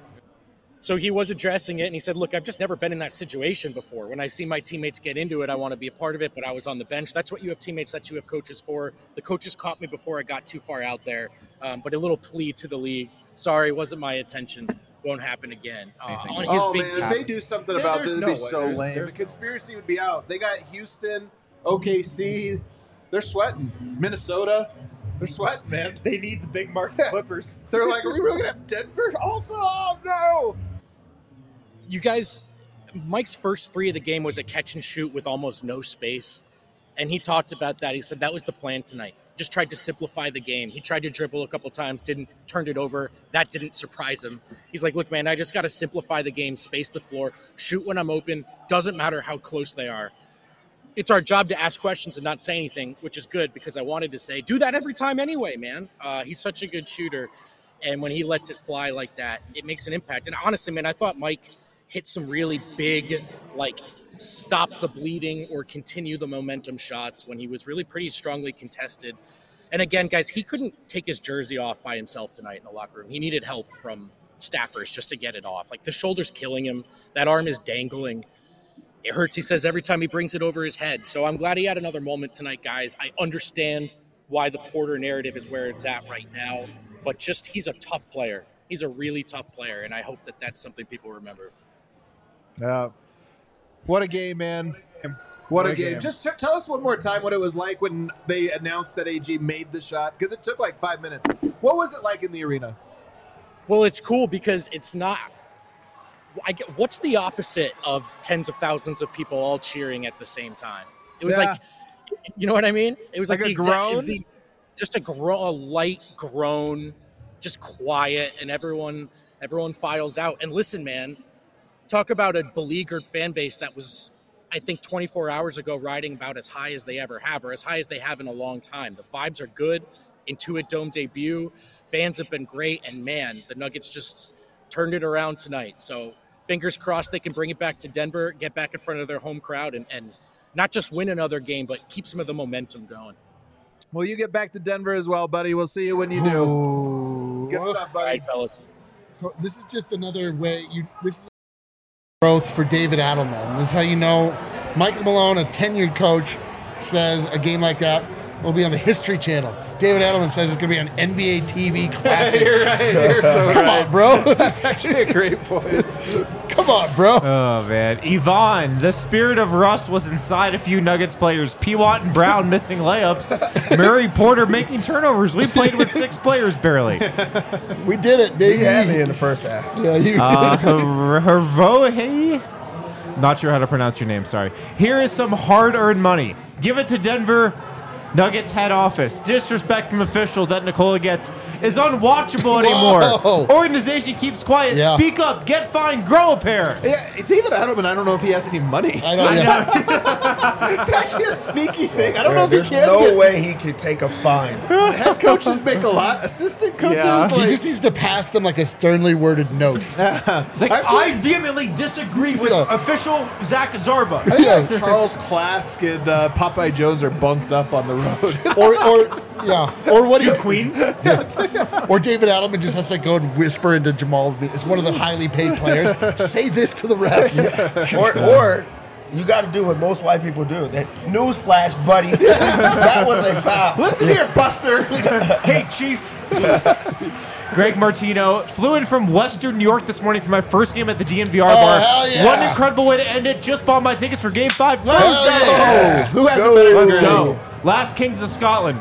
So he was addressing it, and he said, look, I've just never been in that situation before. When I see my teammates get into it, I want to be a part of it, but I was on the bench. That's what you have teammates, that you have coaches for. The coaches caught me before I got too far out there, um, but a little plea to the league. Sorry, wasn't my intention. Won't happen again. Uh, on his oh, big man, if they do something There- about this, there's it'd be no way. so There's- lame. there's The conspiracy would be out. They got Houston, O K C. They're sweating. Minnesota. They're sweating, man. They need the big market Clippers. They're like, are we really going to have Denver also? Oh, no. You guys, Mike's first three of the game was a catch and shoot with almost no space. And he talked about that. He said that was the plan tonight. Just tried to simplify the game. He tried to dribble a couple times, didn't turned it over. That didn't surprise him. He's like, look, man, I just got to simplify the game, space the floor, shoot when I'm open. Doesn't matter how close they are. It's our job to ask questions and not say anything, which is good because I wanted to say, do that every time anyway, man. Uh, he's such a good shooter. And when he lets it fly like that, it makes an impact. And honestly, man, I thought Mike hit some really big, like, stop the bleeding or continue the momentum shots when he was really pretty strongly contested. And again, guys, he couldn't take his jersey off by himself tonight in the locker room. He needed help from staffers just to get it off. Like, the shoulder's killing him. That arm is dangling. It hurts, he says, every time he brings it over his head. So I'm glad he had another moment tonight, guys. I understand why the Porter narrative is where it's at right now, but just he's a tough player. He's a really tough player, and I hope that that's something people remember. Uh, what a game, man. What, What a, a game. game. Just t- tell us one more time what it was like when they announced that A G made the shot, because it took like five minutes. What was it like in the arena? Well, it's cool because it's not. I get, what's the opposite of tens of thousands of people all cheering at the same time? It was Yeah. like, you know what I mean? It was like, Like the a exact, it was groan? the, just a, gro- a light groan, just quiet, and everyone everyone files out. And listen, man, talk about a beleaguered fan base that was, I think, twenty-four hours ago riding about as high as they ever have, or as high as they have in a long time. The vibes are good. Intuit Dome debut. Fans have been great, and man, the Nuggets just turned it around tonight. So fingers crossed they can bring it back to Denver, get back in front of their home crowd, and, and not just win another game, but keep some of the momentum going. Well, you get back to Denver as well, buddy. We'll see you when you do. Ooh. Good stuff, All buddy. right, fellas. This is just another way you. This is growth for David Adelman. This is how you know Michael Malone, a tenured coach, says a game like that will be on the History Channel. David Adelman says it's going to be on N B A T V classic. You're right. You're so Come right. on, bro. That's actually a great point. Come on, bro. Oh, man. Yvonne, the spirit of Russ was inside a few Nuggets players. P. Watt and Brown missing layups. Murray Porter making turnovers. We played with six players barely. We did it, He baby. had me in the first half. Yeah, you. Uh, Her- Hervohe? Not sure how to pronounce your name, sorry. Here is some hard-earned money. Give it to Denver Nuggets head office. Disrespect from officials that Nikola gets is unwatchable anymore. Whoa. Organization keeps quiet. Yeah. Speak up. Get fined. Grow a pair. Yeah, David Adelman, I don't know if he has any money. I know. Yeah. It's actually a sneaky thing. I don't know if There's he can no get way he could take a fine. Head coaches make a lot. Assistant coaches, Yeah. He like, just needs to pass them like a sternly worded note. It's like, I've seen- I vehemently disagree with Yeah. official Zach Zarba. yeah, Charles Klask and uh, Popeye Jones are bunked up on the road. Or, or yeah, or what? He, Queens? or David Adelman just has to go and whisper into Jamal. It's one of the highly paid players. Say this to the refs. Or, or you got to do what most white people do. That newsflash, buddy. That was a foul. Listen here, Buster. Hey, Chief. Greg Martino flew in from Western New York this morning for my first game at the D N V R bar. hell yeah. What an incredible way to end it. Just bought my tickets for Game five Tuesday. yeah. Who has Go. a better Let's career? go. Last Kings of Scotland.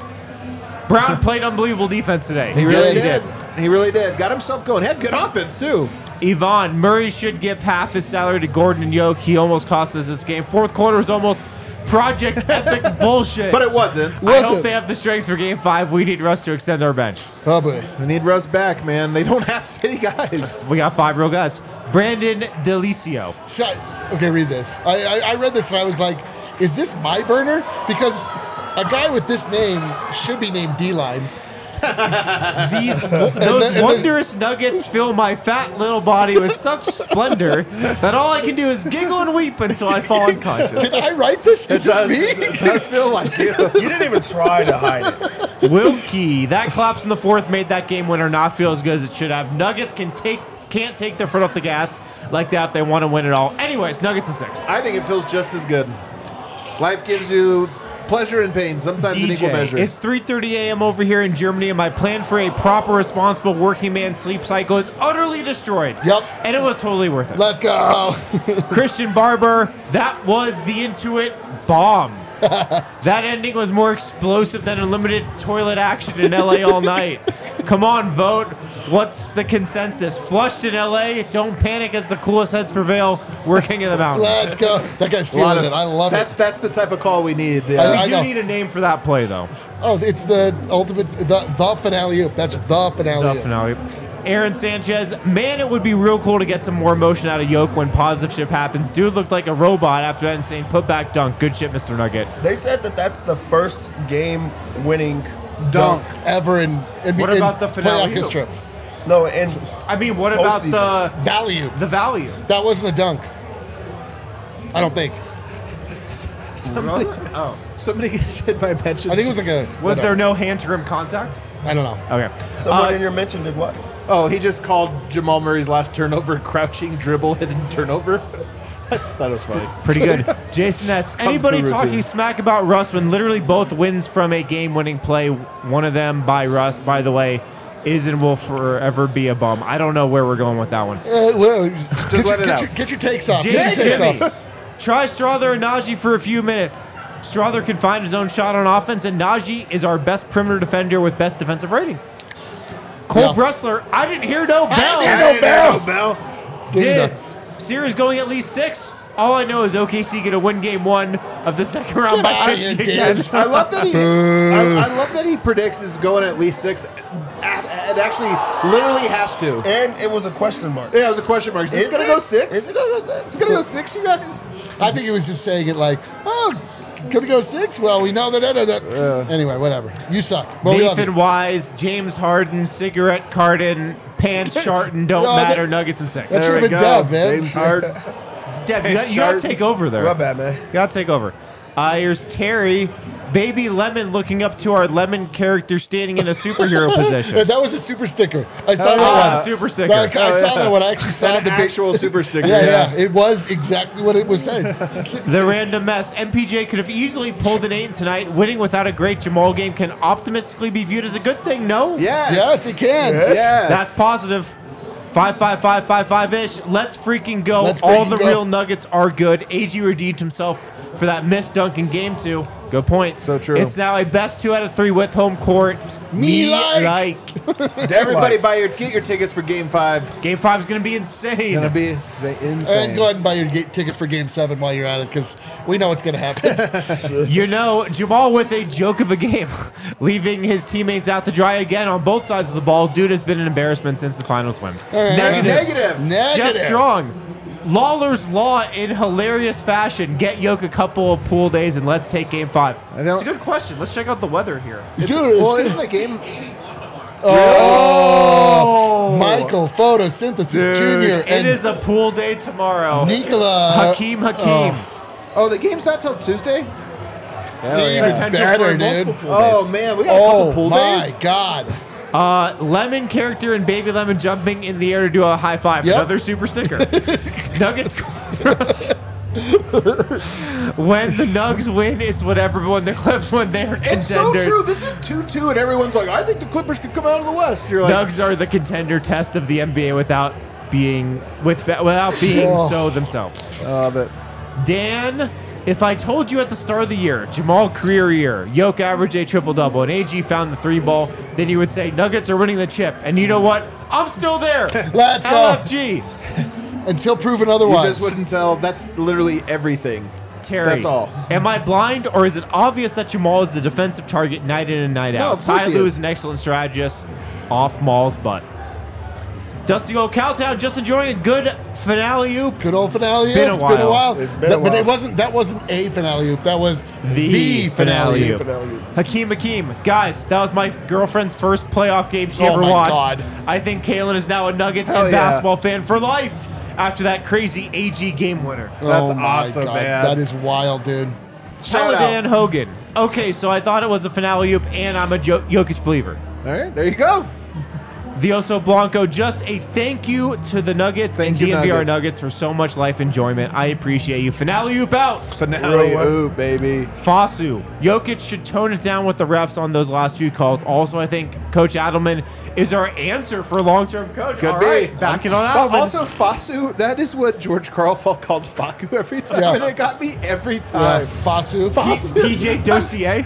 Brown played unbelievable defense today. He really did. did. He really did. Got himself going. Had good offense, too. Yvonne, Murray should give half his salary to Gordon and Yoke. He almost cost us this game. Fourth quarter was almost Project Epic bullshit. But it wasn't. I wasn't. hope they have the strength for Game five. We need Russ to extend our bench. Oh boy. We need Russ back, man. They don't have any guys. We got five real guys. Brandon Delicio. So, okay, read this. I, I I read this and I was like, is this my burner? Because a guy with this name should be named D-Line. These those then- and then- wondrous nuggets fill my fat little body with such splendor that all I can do is giggle and weep until I fall unconscious. Did I write this? Is this me? It does feel like you. You didn't even try to hide it. Wilkie, that collapse in the fourth made that game winner not feel as good as it should have. Nuggets can take can't take their foot off the gas like that if they want to win it all. Anyways, Nuggets and six. I think it feels just as good. Life gives you pleasure and pain, sometimes in equal measure. It's three thirty a.m. over here in Germany, and my plan for a proper, responsible working man sleep cycle is utterly destroyed. Yep. And it was totally worth it. Let's go. Christian Barber, that was the Intuit bomb. That ending was more explosive than unlimited toilet action in L A all night. Come on, vote. What's the consensus? Flushed in L A, don't panic as the coolest heads prevail. We're king of the mountain. Let's go. That guy's A lot feeling of- it. I love that, it. That's the type of call we need. I- Yeah. We I do know. need a name for that play, though. Oh, it's the ultimate, the, the finale oop. That's the finale. The oop. finale. Aaron Sanchez, man, it would be real cool to get some more motion out of Yoke when positive shit happens. Dude looked like a robot after that insane putback dunk. Good shit, Mister Nugget. They said that that's the first game-winning Dunk. Ever in, in, What in about the finale playoff oop? history. No, and I mean, what about the Value. the value? That wasn't a dunk. I don't think. Somebody, Oh, somebody did my mentions. I think it was like a. was there no hand to rim contact? I don't know. Okay. someone Uh, in your mention did what? Oh, he just called Jamal Murray's last turnover crouching dribble hidden turnover. That's, that was funny. Pretty good. Jason S. Kung Anybody fu talking routine. smack about Russ when literally both wins from a game-winning play, one of them by Russ, by the way, is and will forever be a bum. I don't know where we're going with that one. Uh, well, get, your, let it get, out. your, get your takes off. Jay Get your takes Jimmy, off. try Strother and Najee for a few minutes. Strother can find his own shot on offense, and Najee is our best perimeter defender with best defensive rating. Cole Yeah. Bressler, I didn't hear no bell. didn't hear no bell. Bell. Diz. Series going at least six. All I know is O K C going to win game one of the second round Get by outta fifty here, again. Diz. I love that he. I, I love that he predicts is going at least six. It actually literally has to. And it was a question mark. Yeah, it was a question mark. Is this Is gonna it? go six? Is it gonna go six? It's gonna go six, you guys. I think he was just saying it like, oh, gonna go six? Well, we know that. that, that, that. Anyway, whatever. You suck. Well, we love Nathan you. Wise, James Harden, Cigarette Carton, Pants Sharton, don't No, that- matter, Nuggets and six. That There should we have been go. Dev, man. James Hard. Deb, you got, you got to take over there. My bad, man. You got to take over. Uh, here's Terry, Baby Lemon looking up to our Lemon character standing in a superhero Yeah, position. that was a super sticker. I saw Oh, that Uh, one. super sticker. No, I, I Oh, saw yeah. that one. I actually saw An the big. actual super sticker. Yeah, yeah, It was exactly what it was saying. The random mess. M P J could have easily pulled an eight tonight. Winning without a great Jamal game can optimistically be viewed as a good thing. No? Yes. Yes, it can. Yes. That's positive. Five, five, five, five, five ish. Let's freaking go. Let's All freaking the go. real Nuggets are good. A G redeemed himself for that missed dunk in game two. Good point. So true. It's now a best two out of three with home court. Me like. like. Everybody Likes. buy your get your tickets for Game Five. Game five is going to be insane. Gonna be insa- insane. And go ahead and buy your ga- tickets for Game Seven while you're at it, because we know what's going to happen. You know, Jamal with a joke of a game, leaving his teammates out to dry again on both sides of the ball. Dude has been an embarrassment since the finals win. All right. Negative. Negative. Negative. Jeff Strong. Lawler's Law in hilarious fashion. Get Yoke a couple of pool days and let's take game five. I don't- It's a good question. Let's check out the weather here. Dude, Well, isn't the game? oh, Michael Photosynthesis Junior It and is a pool day tomorrow. Nikola Hakeem Hakeem. Oh, the game's not till Tuesday. Even Potential better, for dude. multiple pool Oh days. man, we got a couple Oh pool my days. God! Uh, Lemon character and Baby Lemon jumping in the air to do a high five. Yep. Another super sticker. Nuggets. When the Nugs win, it's whatever. But when the Clips win, they're It's contenders. so true. This is two two, and everyone's like, "I think the Clippers could come out of the West." You're like, Nugs are the contender test of the N B A without being with without being Oh. so themselves. "Oh, but Dan, if I told you at the start of the year, Jamal career year, Yoke average a triple double, and A G found the three ball, then you would say Nuggets are winning the chip. And you know what? I'm still there. Let's go. L F G. Until proven you otherwise. just wouldn't tell." That's literally everything. Terry. That's all. Am I blind, or is it obvious that Jamal is the defensive target night in and night No, out? of course Ty he Lue is. is an excellent strategist off Maul's butt. Dusty Gold Cowtown just enjoying a good finale oop. Good old finale. Been a It's Been a while. while. It's been That- a But while. it wasn't. That wasn't a finale. oop. That was The, finale. oop. Finale. Hakeem Hakeem. Guys, that was my girlfriend's first playoff game she Oh ever my watched. God. I think Kaylin is now a Nuggets Hell and yeah. basketball fan for life after that crazy A G game winner. That's oh my awesome, God. man. That is wild, dude. Shout Teledan out. Hogan. Okay, so I thought it was a finale oop, and I'm a jo- Jokic believer. All right, there you go. The Oso Blanco, just a thank you to the Nuggets Thank and you, D N V R Nuggets. Nuggets for so much life enjoyment. I appreciate you. Finale oop out. Finale, Real one. ooh, baby. Fasu. Jokic should tone it down with the refs on those last few calls. Also, I think Coach Adelman is our answer for long-term coach. Could All be. right, backing on But Adelman. also, Fasu, that is what George Carlfall called Faku every time, Yeah. and it got me every Yeah, time. Fasu. P J Dossier.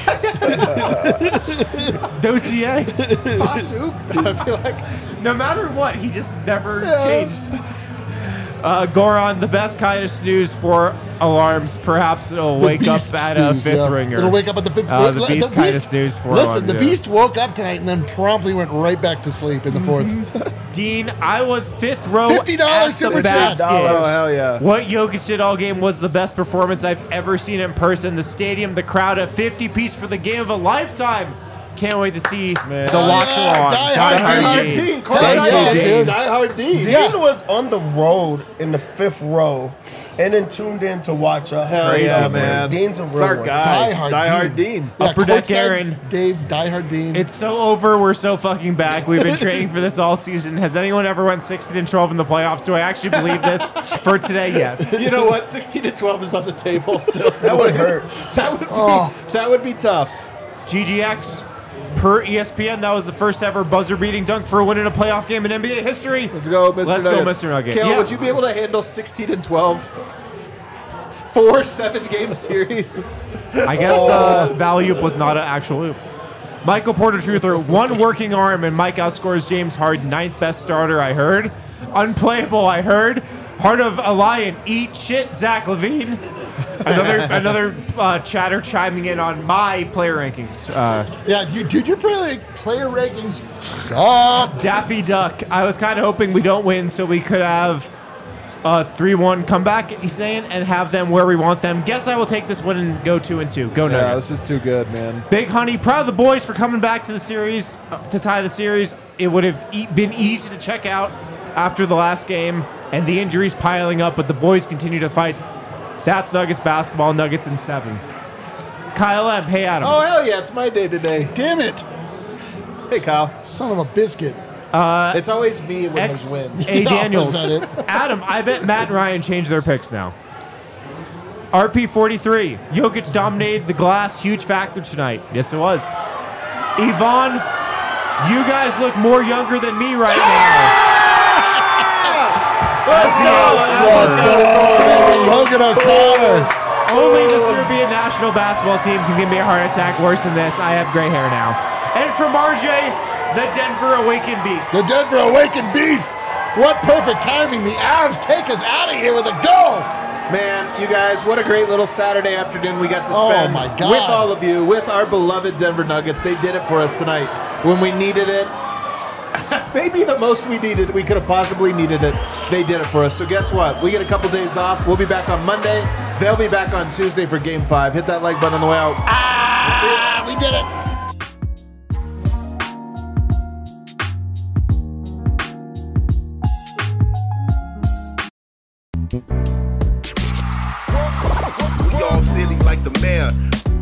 Dossier. Fasu, I feel like No matter what, he just never Yeah. changed. Uh, Goron, the best kind of snooze for alarms. Perhaps it'll The wake up Beast at a snooze, fifth yeah. ringer. It'll wake up at the fifth. Uh, the L- Beast kinda snooze for Listen, alarm, the too. Beast woke up tonight and then promptly went right back to sleep in the fourth. Dean, I was fifth row fifty dollars at the super chat. basket. oh hell yeah. What Jokic did all game was the best performance I've ever seen in person. The stadium, the crowd, a fifty piece for the game of a lifetime. Can't wait to see the Oh, locks yeah, are on. Die Die Hard Hard Dean. Dean. Dean, Thank Carson you, Dean, dude. Die Hard Dean. Dean Yeah. was on the road in the fifth row and then tuned in to watch us. Hell Crazy, yeah, bro. man. Dean's a real It's our one. guy. Die Hard Die Dean. Hard Dean. Yeah, Upper Deck courtside Aaron. Dave, Die Hard Dean. It's so over. We're so fucking back. We've been training for this all season. Has anyone ever went sixteen and twelve in the playoffs? Do I actually believe this? For today, yes. You know what? sixteen to twelve is on the table still. That would hurt. That would be, Oh. that would be tough. G G X, per E S P N, that was the first ever buzzer-beating dunk for a win in a playoff game in N B A history. Let's go, Mister Let's go, Nugget. Mister Nugget. Kale, Yeah. would you be able to handle sixteen and twelve? Four seven game series. I guess the value was not an actual loop. Michael Porter Truther, one working arm, and Mike outscores James Harden. Ninth best starter, I heard. Unplayable, I heard. Heart of a Lion, eat shit, Zach Levine. Another another uh, chatter chiming in on my player rankings. Uh, Yeah, you, dude, your player, player rankings suck. Daffy Duck. I was kind of hoping we don't win so we could have a three one comeback, he's saying, and have them where we want them. Guess I will take this one and go two and two. Go Yeah, Nuggets. this is too good, man. Big Honey, proud of the boys for coming back to the series, uh, to tie the series. It would have e- been easy to check out after the last game, and the injuries piling up, but the boys continue to fight. That's Nuggets basketball, Nuggets in seven. Kyle M, hey Adam. Oh, hell yeah, it's my day today. Damn it. Hey, Kyle. Son of a biscuit. It's always me when X he wins. A Yeah, Daniels. was that it? Adam, I bet Matt and Ryan changed their picks now. R P forty-three, Jokic dominated the glass, huge factor tonight. Yes, it was. Yvonne, you guys look more younger than me right now. Let's go. Let's go, baby. Logan O'Connor. Only the Serbian national basketball team can give me a heart attack worse than this. I have gray hair now. And from R J, the Denver Awakened Beast. The Denver Awakened Beast. What perfect timing. The Avs take us out of here with a goal. Man, you guys, what a great little Saturday afternoon we got to Oh, spend my God. with all of you, with our beloved Denver Nuggets. They did it for us tonight when we needed it. Maybe the most we needed, we could have possibly needed it. They did it for us. So guess what? We get a couple days off. We'll be back on Monday. They'll be back on Tuesday for Game five. Hit that like button on the way out. Ah, we did it. We all silly like the mayor.